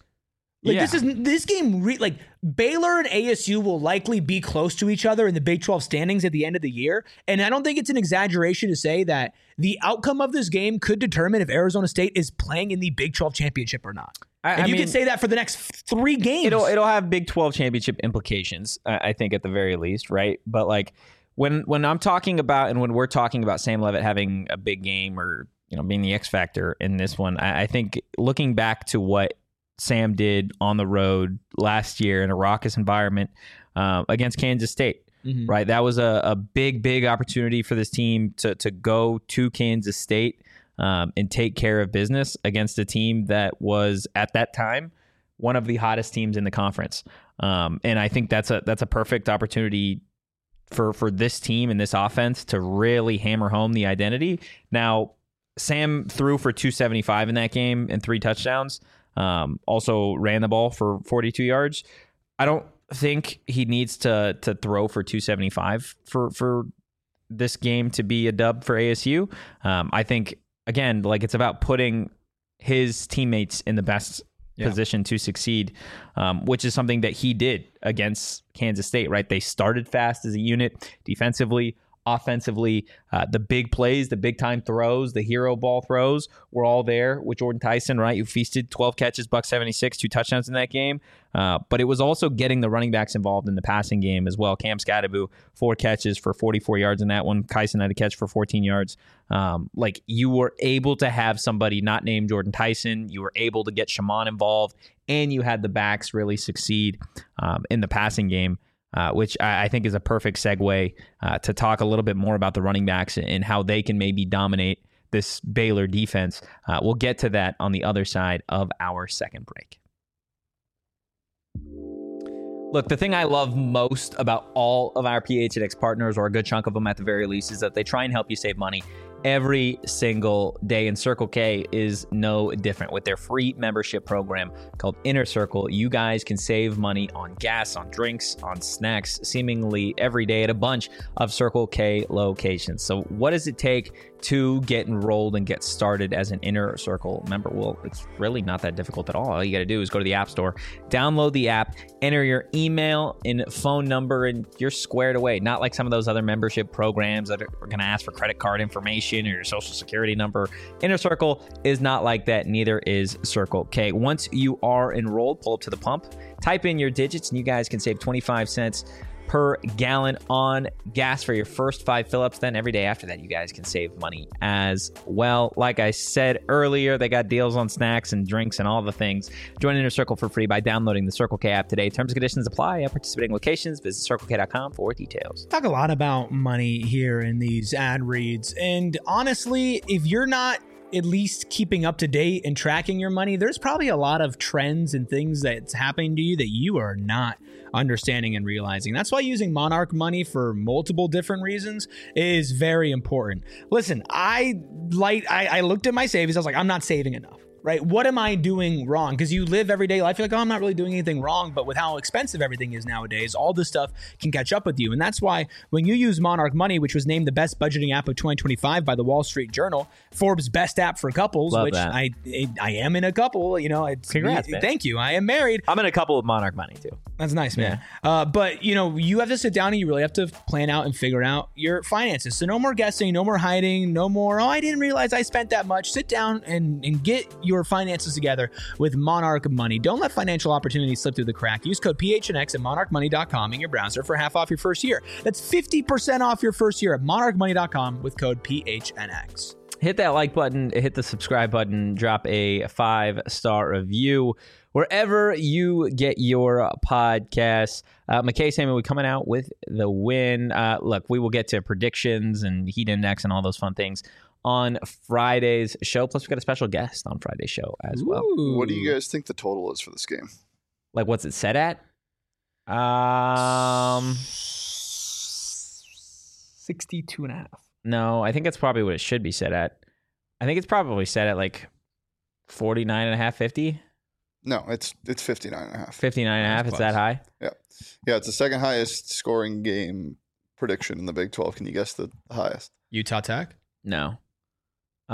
This game, Baylor and ASU will likely be close to each other in the Big 12 standings at the end of the year. And I don't think it's an exaggeration to say that the outcome of this game could determine if Arizona State is playing in the Big 12 championship or not. And you can say that for the next 3 games. It'll have Big 12 championship implications, I think, at the very least, right? But when I'm talking about and when we're talking about Sam Leavitt having a big game or being the X factor in this one, I think looking back to what Sam did on the road last year in a raucous environment against Kansas State, right? That was a big opportunity for this team to go to Kansas State and take care of business against a team that was at that time one of the hottest teams in the conference. And I think that's a perfect opportunity for this team and this offense to really hammer home the identity. Now, Sam threw for 275 in that game and 3 touchdowns. Also ran the ball for 42 yards. I don't think he needs to throw for 275 for this game to be a dub for ASU. I think, again, it's about putting his teammates in the best position to succeed, which is something that he did against Kansas State, right? They started fast as a unit defensively, offensively. The big plays, the big time throws, the hero ball throws were all there with Jordan Tyson, right? You feasted 12 catches, $176, 2 touchdowns in that game. But it was also getting the running backs involved in the passing game as well. Cam Scadaboo, 4 catches for 44 yards in that one. Kyson had a catch for 14 yards. You were able to have somebody not named Jordan Tyson. You were able to get Shaman involved, and you had the backs really succeed in the passing game. Which I think is a perfect segue to talk a little bit more about the running backs and how they can maybe dominate this Baylor defense. We'll get to that on the other side of our second break. Look, the thing I love most about all of our PHNX partners, or a good chunk of them at the very least, is that they try and help you save money every single day. And Circle K is no different. With their free membership program called Inner Circle, you guys can save money on gas, on drinks, on snacks, seemingly every day at a bunch of Circle K locations. So what does it take to get enrolled and get started as an Inner Circle member? Well, it's really not that difficult at all. All you got to do is go to the App Store, download the app, enter your email and phone number, and you're squared away. Not like some of those other membership programs that are going to ask for credit card information or your social security number. Inner Circle is not like that. Neither is Circle K. Once you are enrolled, pull up to the pump, type in your digits, and you guys can save 25 cents per gallon on gas for your first 5 fill-ups. Then every day after that, you guys can save money as well. Like I said earlier, they got deals on snacks and drinks and all the things. Join Inner Circle for free by downloading the Circle K app today. Terms and conditions apply at participating locations. Visit CircleK.com for details. Talk a lot about money here in these ad reads. And honestly, if you're not at least keeping up to date and tracking your money, there's probably a lot of trends and things that's happening to you that you are not understanding and realizing. That's why using Monarch Money for multiple different reasons is very important. Listen, I looked at my savings. I was like, I'm not saving enough. Right? What am I doing wrong? Because you live everyday life. You're like, oh, I'm not really doing anything wrong. But with how expensive everything is nowadays, all this stuff can catch up with you. And that's why when you use Monarch Money, which was named the best budgeting app of 2025 by the Wall Street Journal, Forbes' best app for couples, Love which that. I am in a couple. Congrats, man. Thank you. I am married. I'm in a couple with Monarch Money too. That's nice, man. Yeah. But you have to sit down and you really have to plan out and figure out your finances. So no more guessing, no more hiding, no more, oh, I didn't realize I spent that much. Sit down and get your finances together with Monarch Money. Don't let financial opportunities slip through the crack. Use code PHNX at monarchmoney.com in your browser for half off your first year. That's 50% off your first year at monarchmoney.com with code PHNX. Hit that like button, hit the subscribe button, drop a 5-star review wherever you get your podcasts. McKay Salmon, we're coming out with the win. Look, we will get to predictions and heat index and all those fun things on Friday's show. Plus, we got a special guest on Friday's show as well. Ooh. What do you guys think the total is for this game? Like, what's it set at? 62.5. No, I think that's probably what it should be set at. I think it's probably set at like 49.5, 50. No, it's 59.5. 59.5. It's that high. Yeah, it's the second highest scoring game prediction in the Big 12. Can you guess the highest? Utah Tech? No. Who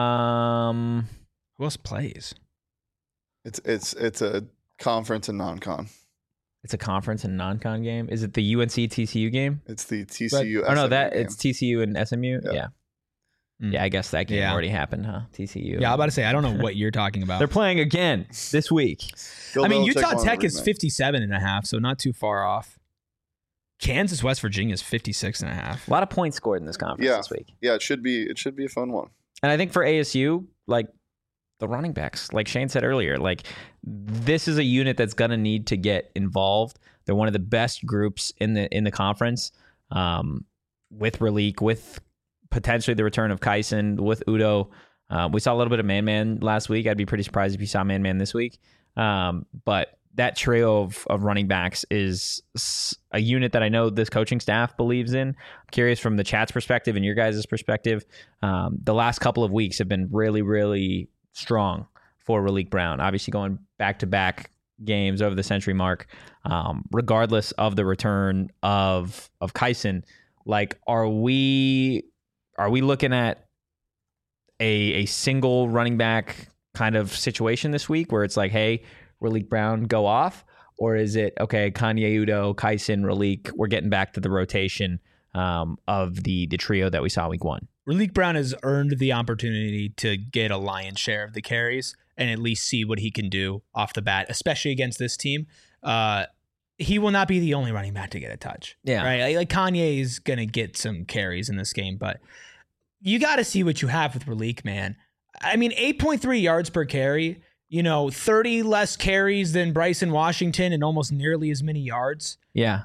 else plays? It's a conference and non-con. It's a conference and non-con game. Is it the UNC TCU game? It's the TCU. Oh no, game. it's TCU and SMU. Yeah. Yeah, I guess that game already happened, huh? TCU. Yeah, I'm about to say I don't know what you're talking about. They're playing again this week. Bill I mean, Belichick Utah won Tech the is rematch. 57.5, so not too far off. Kansas, West Virginia is 56.5. A lot of points scored in this conference this week. Yeah, it should be a fun one. And I think for ASU, like the running backs, like Shane said earlier, like this is a unit that's gonna need to get involved. They're one of the best groups in the conference, with Raleek, with potentially the return of Kyson, with Udo. We saw a little bit of Man last week. I'd be pretty surprised if you saw Man this week. But that trio of running backs is a unit that I know this coaching staff believes in. I'm curious from the chat's perspective and your guys' perspective. The last couple of weeks have been really, really strong for Raleek Brown. Obviously going back-to-back games over the century mark, regardless of the return of Kyson. Like, are we looking at a single running back kind of situation this week where it's like, hey, Raleek Brown, go off? Or is it, okay, Kanye Udo, Kyson, Raleek, we're getting back to the rotation of the trio that we saw week one? Raleek Brown has earned the opportunity to get a lion's share of the carries and at least see what he can do off the bat, especially against this team. He will not be the only running back to get a touch. Yeah. Right? Like Kanye is going to get some carries in this game, but you got to see what you have with Raleek, man. I mean, 8.3 yards per carry, 30 less carries than Bryson Washington and almost nearly as many yards. Yeah.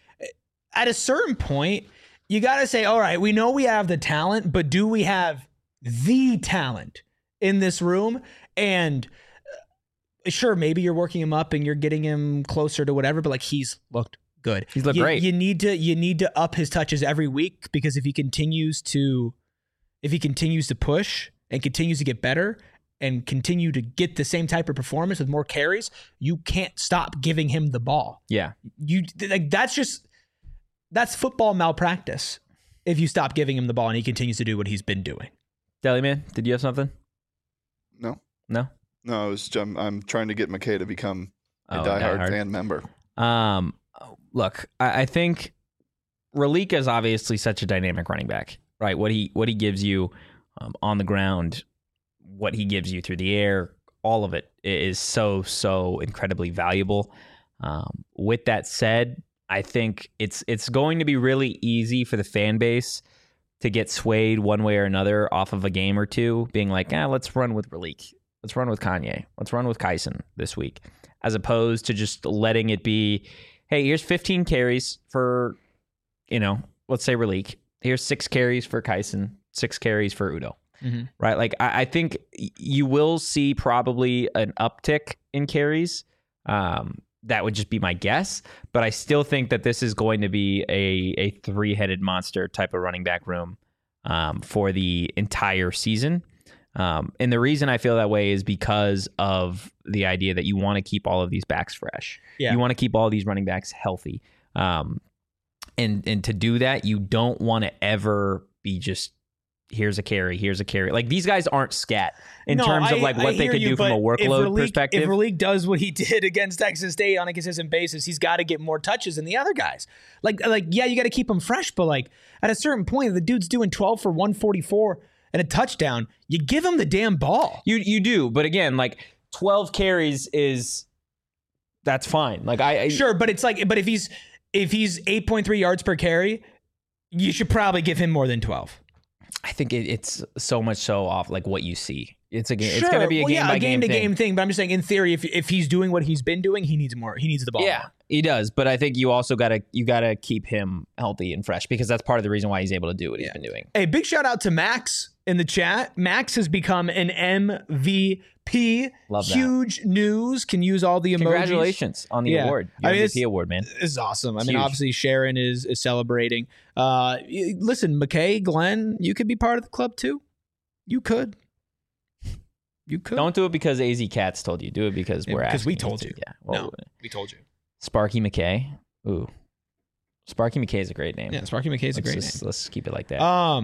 At a certain point, you got to say, all right, we know we have the talent, but do we have the talent in this room. And sure, maybe you're working him up and you're getting him closer to whatever, but like he's looked good. He's looked great. You need to up his touches every week, because if he continues to push and continues to get better and continue to get the same type of performance with more carries, you can't stop giving him the ball. Yeah. That's football malpractice if you stop giving him the ball and he continues to do what he's been doing. Deli Man, did you have something? No. No, I'm trying to get McKay to become a diehard fan member. Look, I think Raleek is obviously such a dynamic running back, right? What he gives you on the ground, what he gives you through the air, all of it is so incredibly valuable. With that said, I think it's going to be really easy for the fan base to get swayed one way or another off of a game or two, being like, let's run with Raleek. Let's run with Kanye. Let's run with Kyson this week, as opposed to just letting it be, hey, here's 15 carries for, let's say Raleek. Here's 6 carries for Kyson, 6 carries for Udo. Mm-hmm. Right? Like, I think you will see probably an uptick in carries. That would just be my guess. But I still think that this is going to be a 3-headed monster type of running back room for the entire season. And the reason I feel that way is because of the idea that you want to keep all of these backs fresh. Yeah. You want to keep all these running backs healthy. And to do that, you don't want to ever be just, here's a carry. Like, these guys aren't scat in terms of like what they could do from a workload perspective. If Raleek does what he did against Texas State on a consistent basis, he's got to get more touches than the other guys. Like yeah, you got to keep him fresh, but like at a certain point, the dude's doing 12 for 144 and a touchdown. You give him the damn ball. You do, but again, like 12 carries that's fine. Like sure, but it's like, but if he's 8.3 yards per carry, you should probably give him more than 12. I think it's so much so off like what you see. It's it's going to be a game to game thing. But I'm just saying, in theory, if he's doing what he's been doing, he needs more. He needs the ball. Yeah, more. He does. But I think you also gotta keep him healthy and fresh, because that's part of the reason why he's able to do what he's been doing. Hey, big shout out to Max in the chat. Max has become an MVP. Love that. Huge news. Can use all the emojis. Congratulations on the award. Your MVP award, man. This is awesome. I mean, obviously Sharon is celebrating. Listen, McKay, Glenn, you could be part of the club too. You could. Don't do it because AZ Cats told you. Do it because we told you. Yeah. Well, no, we told you. Sparky McKay. Ooh. Sparky McKay is a great name. Yeah, Sparky McKay is a great name. Let's keep it like that.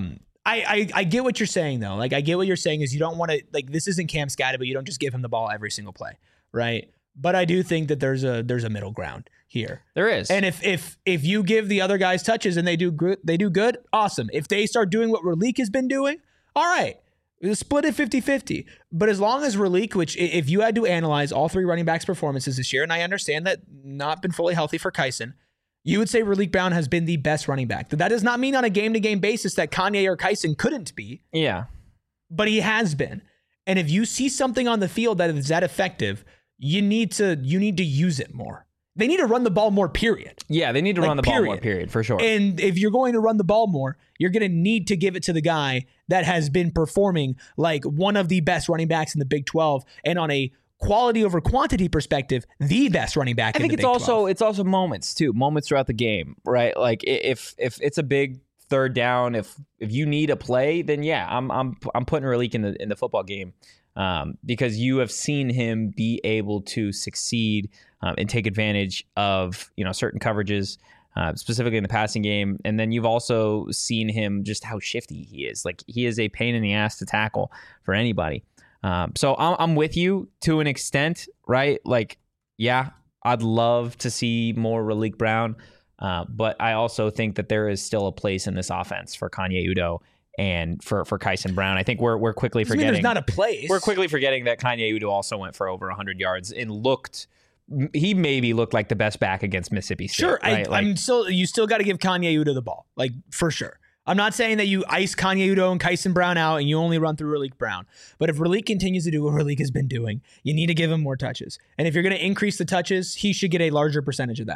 I get what you're saying though. Like, I get what you're saying is you don't want to, like, this isn't Cam Scatty, but you don't just give him the ball every single play, right? But I do think that there's a middle ground here. There is. And if you give the other guys touches and they do good, awesome. If they start doing what Raleek has been doing, all right. Split it 50-50. But as long as Raleek, which if you had to analyze all 3 running backs' performances this year, and I understand that not been fully healthy for Kyson, you would say Raleek Brown has been the best running back. That does not mean on a game-to-game basis that Kanye or Kyson couldn't be. Yeah. But he has been. And if you see something on the field that is that effective, you need to use it more. They need to run the ball more, period. Yeah, they need to run the ball more, period, for sure. And if you're going to run the ball more, you're going to need to give it to the guy that has been performing like one of the best running backs in the Big 12, and on a quality over quantity perspective, the best running back in the Big 12. It's also moments too, moments throughout the game, right? Like if it's a big third down, if you need a play, then yeah, I'm putting Raleek in the football game. Because you have seen him be able to succeed and take advantage of certain coverages, specifically in the passing game, and then you've also seen him just how shifty he is. Like, he is a pain in the ass to tackle for anybody. So I'm with you to an extent, right? Like, yeah, I'd love to see more Raleek Brown, but I also think that there is still a place in this offense for Kanye Udo and for Kyson Brown. I think we're quickly forgetting. There's not a place. We're quickly forgetting that Kanye Udo also went for over 100 yards and he maybe looked like the best back against Mississippi State. Sure, right? You still got to give Kanye Udo the ball, like, for sure. I'm not saying that you ice Kanye Udo and Kyson Brown out and you only run through Raleek Brown. But if Raleek continues to do what Raleek has been doing, you need to give him more touches. And if you're going to increase the touches, he should get a larger percentage of that.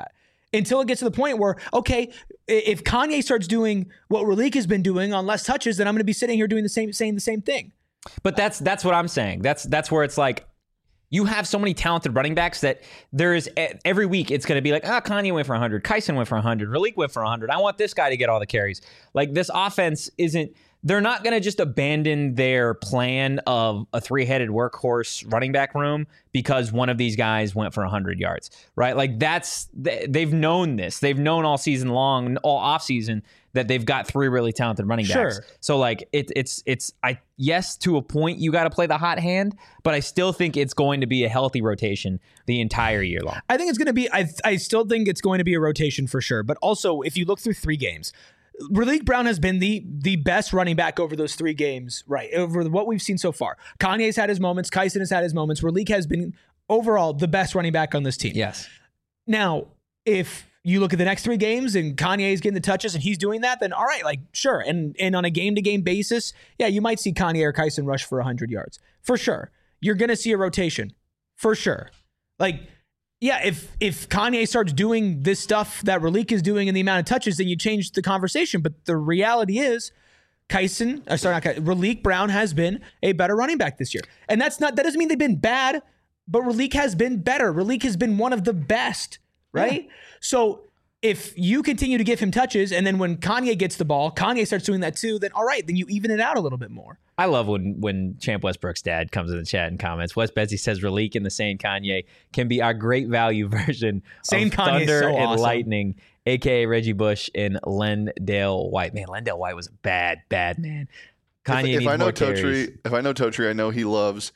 until it gets to the point where, okay, if Kanye starts doing what Raleek has been doing on less touches, then I'm going to be sitting here doing saying the same thing. But that's what I'm saying. That's where it's like, you have so many talented running backs that there is every week it's going to be like, Kanye went for 100, Kyson went for 100, Raleek went for 100. I want this guy to get all the carries. Like, this offense isn't, they're not going to just abandon their plan of a three-headed workhorse running back room because one of these guys went for 100 yards, right? Like, they've known this. They've known all season long, all offseason, that they've got three really talented running backs. Sure. So, like, yes, to a point, you got to play the hot hand, but I still think it's going to be a healthy rotation the entire year long. I think it's going to be, I still think it's going to be a rotation for sure. But also, if you look through 3 games, Raleek Brown has been the best running back over those 3 games, right? Over what we've seen so far. Kanye's had his moments. Kyson has had his moments. Raleek has been overall the best running back on this team. Yes. Now, if you look at the next 3 games and Kanye is getting the touches and he's doing that, then all right, like, sure. And on a game-to-game basis, yeah, you might see Kanye or Kyson rush for 100 yards. For sure. You're going to see a rotation. For sure. Like, yeah, if Kanye starts doing this stuff that Raleek is doing in the amount of touches, then you change the conversation. But the reality is, Raleek Brown has been a better running back this year. And that doesn't mean they've been bad, but Raleek has been better. Raleek has been one of the best, right? Yeah. So if you continue to give him touches, and then when Kanye gets the ball, Kanye starts doing that too, then all right, then you even it out a little bit more. I love when Champ Westbrook's dad comes in the chat and comments. Wes Bezzi says Raleek and the Sane Kanye can be our great value version Sane of Kanye's Thunder so and awesome. Lightning, a.k.a. Reggie Bush and Lendale White. Man, Lendale White was a bad man. Kanye needs more carries. If I know Totri, I know he loves,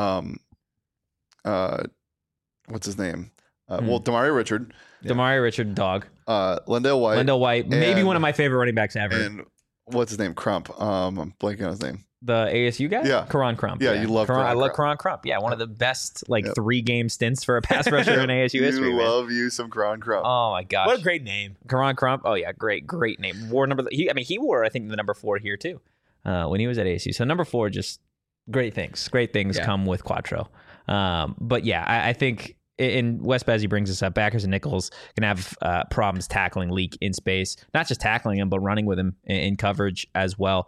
what's his name? Well, Damari Richard. Damari Richard, dog. Lendale White. Maybe one of my favorite running backs ever. And what's his name? Crump. I'm blanking on his name. The ASU guy? Yeah. Karan Crump. Yeah, you love Karan. I love Karan Crump. Yeah, one of the best 3-game stints for a pass rusher in ASU history. You love you some Karan Crump. Oh my gosh. What a great name. Karan Crump. Oh yeah, great name. Wore number he wore, I think, the number 4 here too. When he was at ASU. So number 4, just great things. Great things come with Quattro. But yeah, I think, and Wes Bezzi brings this up, backers and nickels can have problems tackling Leak in space, not just tackling him, but running with him in coverage as well.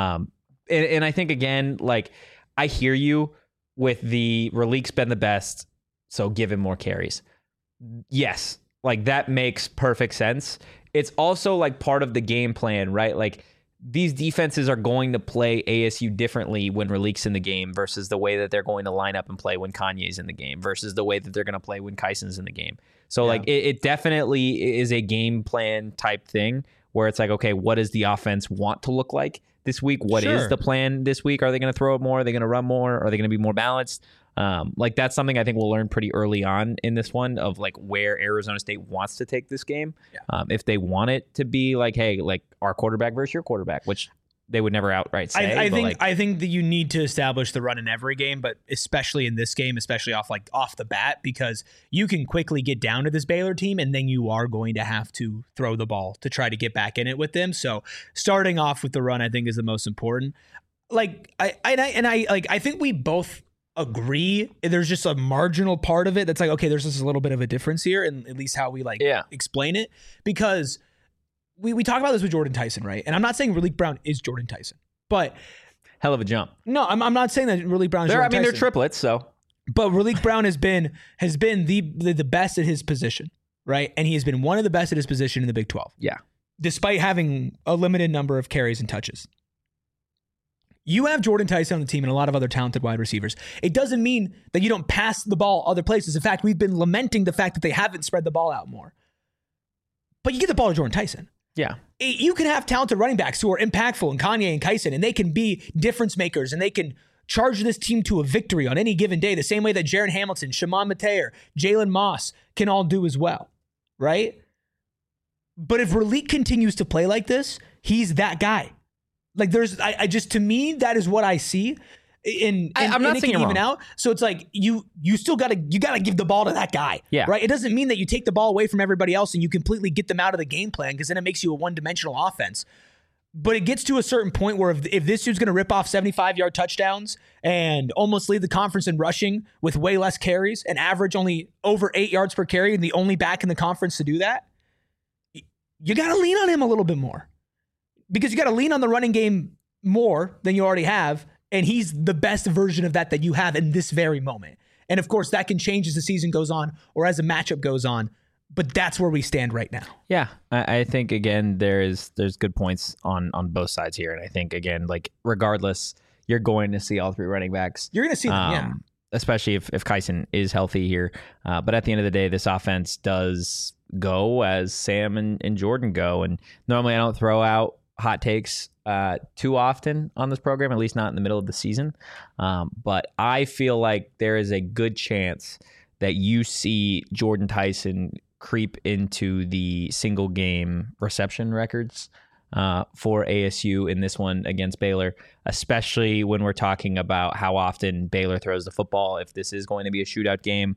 And I think, again, like, I hear you with the Raleek's been the best, so give him more carries. Yes, like, that makes perfect sense. It's also like part of the game plan, right? Like, these defenses are going to play ASU differently when Raleek's in the game versus the way that they're going to line up and play when Kanye's in the game versus the way that they're going to play when Kyson's in the game. So like it definitely is a game plan type thing where it's like, okay, what does the offense want to look like this week? What is the plan this week? Are they going to throw it more? Are they going to run more? Are they going to be more balanced? Like, that's something I think we'll learn pretty early on in this one of like where Arizona State wants to take this game. Yeah. If they want it to be like, hey, like our quarterback versus your quarterback, which they would never outright say. I think that you need to establish the run in every game, but especially in this game, especially off the bat, because you can quickly get down to this Baylor team, and then you are going to have to throw the ball to try to get back in it with them. So starting off with the run, I think, is the most important. Like I think we both agree. There's just a marginal part of it that's like, okay, there's just a little bit of a difference here, and at least how we explain it, because we talk about this with Jordan Tyson, right? And I'm not saying Raleek Brown is Jordan Tyson, but hell of a jump. No, I'm not saying that Raleek Brown is Jordan Tyson. They're triplets, so. But Raleek Brown has been the best at his position, right? And he has been one of the best at his position in the Big 12. Yeah. Despite having a limited number of carries and touches. You have Jordan Tyson on the team and a lot of other talented wide receivers. It doesn't mean that you don't pass the ball other places. In fact, we've been lamenting the fact that they haven't spread the ball out more. But you get the ball to Jordan Tyson. Yeah. You can have talented running backs who are impactful, and Kanye and Kyson, and they can be difference makers, and they can charge this team to a victory on any given day, the same way that Jaron Hamilton, Shimon Mateer, Jalen Moss can all do as well, right? But if Raleek continues to play like this, he's that guy. Like, to me, that is what I see. I'm not saying even out. So it's like you still gotta give the ball to that guy. Yeah. Right. It doesn't mean that you take the ball away from everybody else and you completely get them out of the game plan, because then it makes you a one-dimensional offense. But it gets to a certain point where if this dude's gonna rip off 75-yard touchdowns and almost lead the conference in rushing with way less carries and average only over 8 yards per carry and the only back in the conference to do that, you got to lean on him a little bit more, because you got to lean on the running game more than you already have. And he's the best version of that you have in this very moment. And of course, that can change as the season goes on or as a matchup goes on. But that's where we stand right now. Yeah, I think, again, there's good points on both sides here. And I think, again, like, regardless, you're going to see all three running backs. You're going to see them, yeah. Especially if Kyson is healthy here. But at the end of the day, this offense does go as Sam and Jordan go. And normally I don't throw out hot takes too often on this program, at least not in the middle of the season. But I feel like there is a good chance that you see Jordan Tyson creep into the single game reception records for ASU in this one against Baylor, especially when we're talking about how often Baylor throws the football. If this is going to be a shootout game,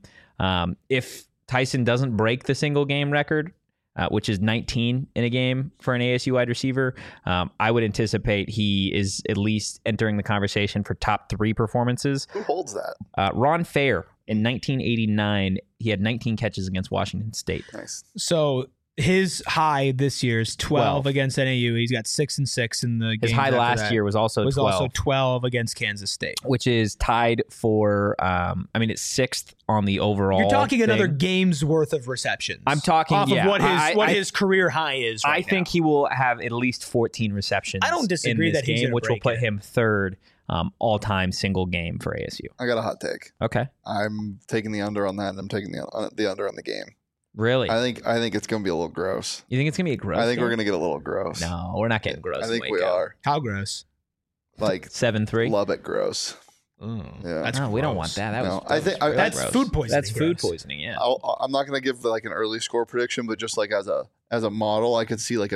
if Tyson doesn't break the single game record, which is 19 in a game for an ASU wide receiver, I would anticipate he is at least entering the conversation for top 3 performances. Who holds that? Ron Fair in 1989. He had 19 catches against Washington State. Nice. So his high this year is 12 against NAU. He's got 6 and 6 in the game. His high last year was also 12. Also 12 against Kansas State, which is tied for. It's 6th on the overall. You're talking thing. Another game's worth of receptions. I'm talking off of what his career high is. Right I think he will have at least 14 receptions. I don't disagree in this that game, he's which will put it. him 3rd all-time single game for ASU. I got a hot take. Okay, I'm taking the under on that, and I'm taking the under on the game. Really? I think it's going to be a little gross. You think it's going to be a gross? I think game? we're going to get a little gross. No, we're not getting gross. I think we are. How gross? Like 7-3. Lubbock gross. Yeah, no, we don't want that. That's food poisoning. That's food poisoning. Yeah. I'm not going to give like an early score prediction, but just like as a model, I could see like a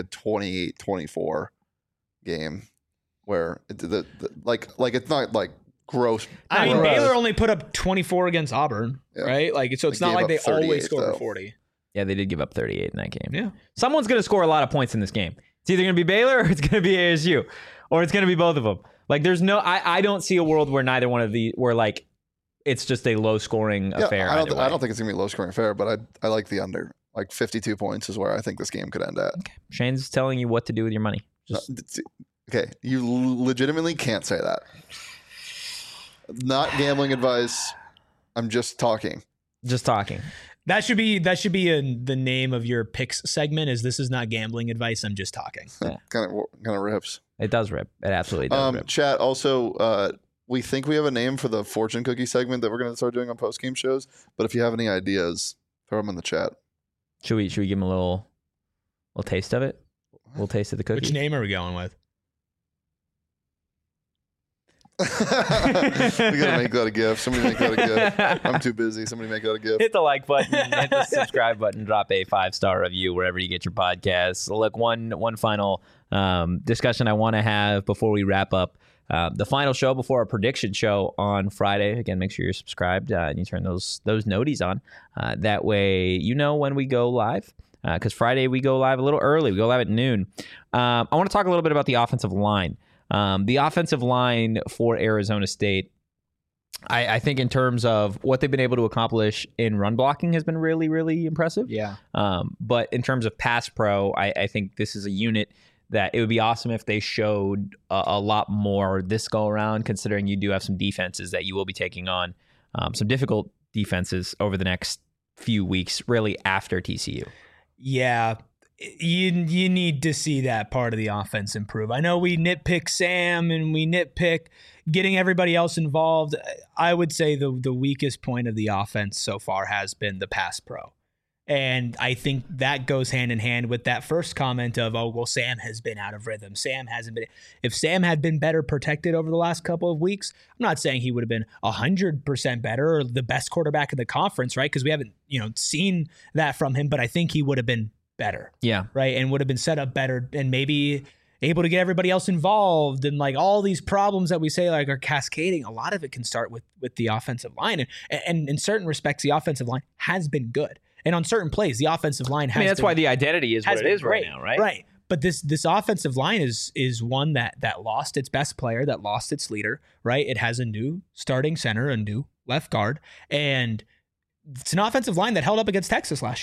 28-24 game where like it's not like gross. I mean, Baylor only put up 24 against Auburn, right? Like, so it's not like they always score 40. Yeah, they did give up 38 in that game. Yeah. Someone's going to score a lot of points in this game. It's either going to be Baylor or it's going to be ASU, or it's going to be both of them. Like, there's no, I don't see a world where neither one of the, where like it's just a low scoring affair. I don't think it's going to be a low scoring affair, but I like the under. Like 52 points is where I think this game could end at. Okay. Shane's telling you what to do with your money. Okay, you legitimately can't say that. Not gambling advice. I'm just talking. Just talking. That should be the name of your picks segment. This is not gambling advice. I'm just talking. Yeah. kind of rips. It does rip. It absolutely does rip. Chat. Also, we think we have a name for the fortune cookie segment that we're going to start doing on post game shows. But if you have any ideas, throw them in the chat. Should we give them a little taste of it? A little taste of the cookie. Which name are we going with? We gotta make that a GIF. Somebody make that a GIF. I'm too busy. Somebody make that a GIF. Hit the like button, hit the subscribe button, drop a 5-star review wherever you get your podcasts. Look, one final discussion I want to have before we wrap up. The final show before our prediction show on Friday. Again, make sure you're subscribed and you turn those noties on. That way you know when we go live. Because Friday we go live a little early. We go live at noon. I want to talk a little bit about the offensive line. The offensive line for Arizona State, I think in terms of what they've been able to accomplish in run blocking has been really, really impressive. Yeah. But in terms of pass pro, I think this is a unit that it would be awesome if they showed a lot more this go around, considering you do have some defenses that you will be taking on, some difficult defenses over the next few weeks, really after TCU. Yeah. You need to see that part of the offense improve. I know we nitpick Sam and we nitpick getting everybody else involved. I would say the weakest point of the offense so far has been the pass pro. And I think that goes hand in hand with that first comment of, oh, well, Sam has been out of rhythm. Sam hasn't been. If Sam had been better protected over the last couple of weeks, I'm not saying he would have been 100% better or the best quarterback in the conference, right? Because we haven't, seen that from him, but I think he would have been better. Yeah. Right. And would have been set up better and maybe able to get everybody else involved. And like all these problems that we say like are cascading, a lot of it can start with the offensive line. And in certain respects, the offensive line has been good. And on certain plays, the offensive line has that's why the identity is what it is right now, right? Right. But this offensive line is one that lost its best player, that lost its leader, right? It has a new starting center, a new left guard, and it's an offensive line that held up against Texas last year.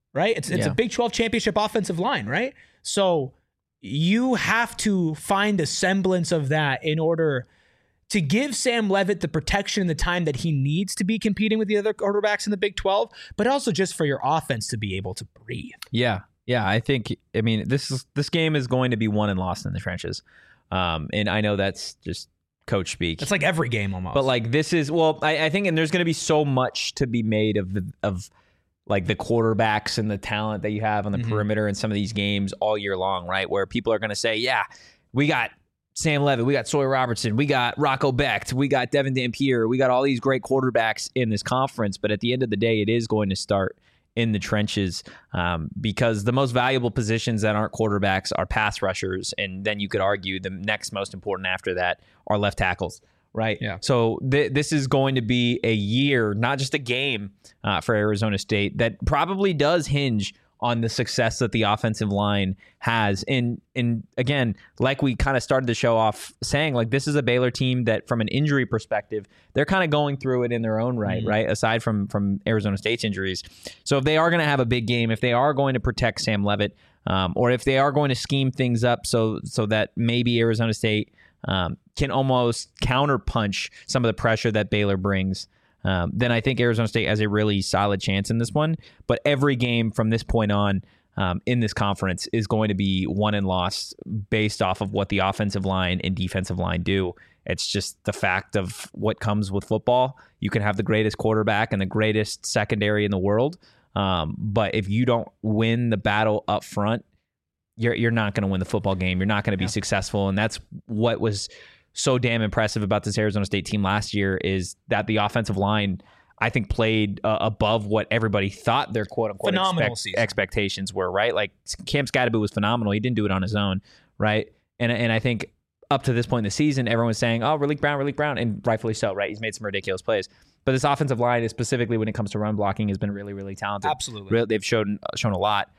right? It's a Big 12 championship offensive line, right? So you have to find a semblance of that in order to give Sam Leavitt the protection and the time that he needs to be competing with the other quarterbacks in the Big 12, but also just for your offense to be able to breathe. Yeah. I mean, this game is going to be won and lost in the trenches. And I know that's just coach speak. It's like every game almost. But like this is, I think, and there's going to be so much to be made of like the quarterbacks and the talent that you have on the perimeter in some of these games all year long, right? Where people are going to say, yeah, we got Sam Leavitt, we got Sawyer Robertson, we got Rocco Becht, we got Devin Dampier, we got all these great quarterbacks in this conference. But at the end of the day, it is going to start in the trenches because the most valuable positions that aren't quarterbacks are pass rushers. And then you could argue the next most important after that are left tackles, right? Yeah. So this is going to be a year, not just a game for Arizona State, that probably does hinge on the success that the offensive line has. And again, like we kind of started the show off saying, like, this is a Baylor team that from an injury perspective, they're kind of going through it in their own right, right? Aside from Arizona State's injuries. So if they are going to have a big game, if they are going to protect Sam Leavitt, or if they are going to scheme things up so that maybe Arizona State can almost counterpunch some of the pressure that Baylor brings, then I think Arizona State has a really solid chance in this one. But every game from this point on in this conference is going to be won and lost based off of what the offensive line and defensive line do. It's just the fact of what comes with football. You can have the greatest quarterback and the greatest secondary in the world, but if you don't win the battle up front, you're not going to win the football game. You're not going to be successful, and that's what was so damn impressive about this Arizona State team last year is that the offensive line, I think, played above what everybody thought their quote-unquote expectations were, right? Like, Cam Skattebo was phenomenal. He didn't do it on his own, right? And I think up to this point in the season, everyone was saying, oh, Raleek Brown, and rightfully so, right? He's made some ridiculous plays. But this offensive line, is specifically when it comes to run blocking, has been really, really talented. Absolutely. They've shown a lot.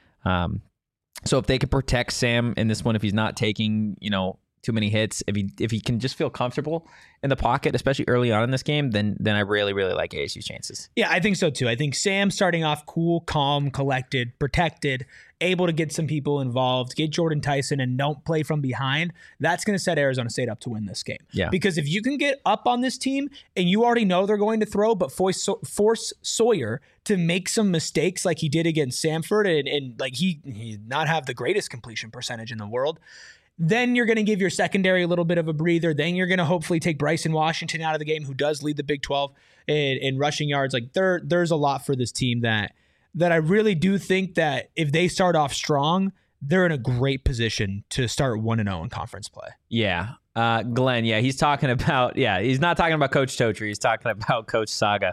So if they could protect Sam in this one, if he's not taking, too many hits, if he can just feel comfortable in the pocket, especially early on in this game, then I really, really like ASU's chances. Yeah, I think so too. I think Sam starting off cool, calm, collected, protected, able to get some people involved, get Jordan Tyson, and don't play from behind, that's going to set Arizona State up to win this game. Yeah. Because if you can get up on this team and you already know they're going to throw, but force Sawyer to make some mistakes like he did against Samford, and like he not have the greatest completion percentage in the world, then you're going to give your secondary a little bit of a breather. Then you're going to hopefully take Bryson Washington out of the game, who does lead the Big 12 in rushing yards. Like there's a lot for this team that I really do think that if they start off strong, they're in a great position to start 1-0 in conference play. Yeah. Glenn, he's talking about, he's not talking about Coach Totri. He's talking about Coach Saga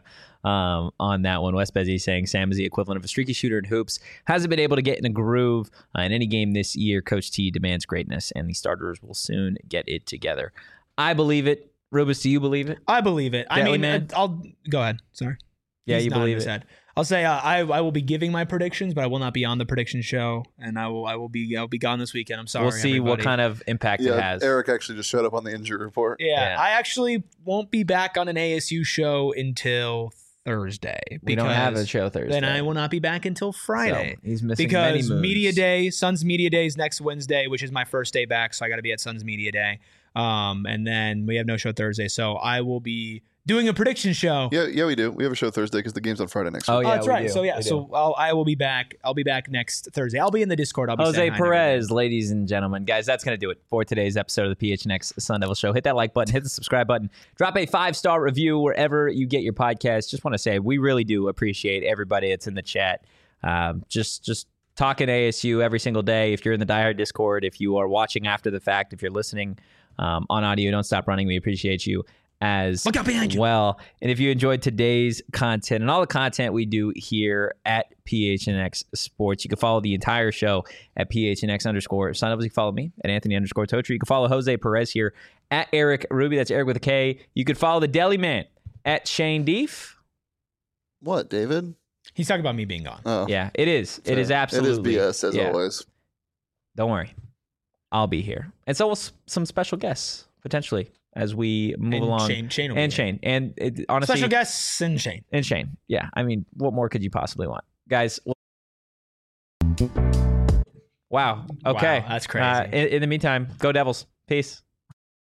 on that one. Wes Bezzi saying Sam is the equivalent of a streaky shooter in hoops. Hasn't been able to get in a groove in any game this year. Coach T demands greatness, and the starters will soon get it together. I believe it. Rubus, do you believe it? I believe it. I'll go ahead. Sorry. Yeah, you believe it. I'll say I will be giving my predictions, but I will not be on the prediction show, and I'll be gone this weekend. I'm sorry. We'll see what kind of impact it has. Eric actually just showed up on the injury report. Yeah, I actually won't be back on an ASU show until Thursday. We don't have a show Thursday. Then I will not be back until Friday. So he's missing because many moves. Media Day, Suns Media Day is next Wednesday, which is my first day back, so I got to be at Suns Media Day. And then we have no show Thursday, so I will be doing a prediction show. Yeah, we do. We have a show Thursday because the game's on Friday next week. Oh, that's right. So I will be back. I'll be back next Thursday. I'll be in the Discord. I'll be Jose Perez, ladies and gentlemen. Guys, that's going to do it for today's episode of the PHNX Sun Devil Show. Hit that like button, hit the subscribe button, drop a 5-star review wherever you get your podcast. Just want to say we really do appreciate everybody that's in the chat. Just talking ASU every single day. If you're in the Die Hard Discord, if you are watching after the fact, if you're listening on audio, don't stop running. We appreciate you as Look out behind you. Well. And if you enjoyed today's content and all the content we do here at PHNX Sports, you can follow the entire show at PHNX_. Sign up. You can follow me at Anthony_Totri. You can follow Jose Perez here at Eric Ruby. That's Eric with a K. You could follow the Deli Man at Shane Deef. What, David? He's talking about me being gone. Oh. Yeah, it is. It is absolutely. It is BS, as always. Don't worry. I'll be here. And so will some special guests, potentially, as we move along. Shane will and be Shane. And honestly, special guests and Shane. Yeah. I mean, what more could you possibly want? Guys, Wow. Okay. Wow, that's crazy. In the meantime, go Devils. Peace.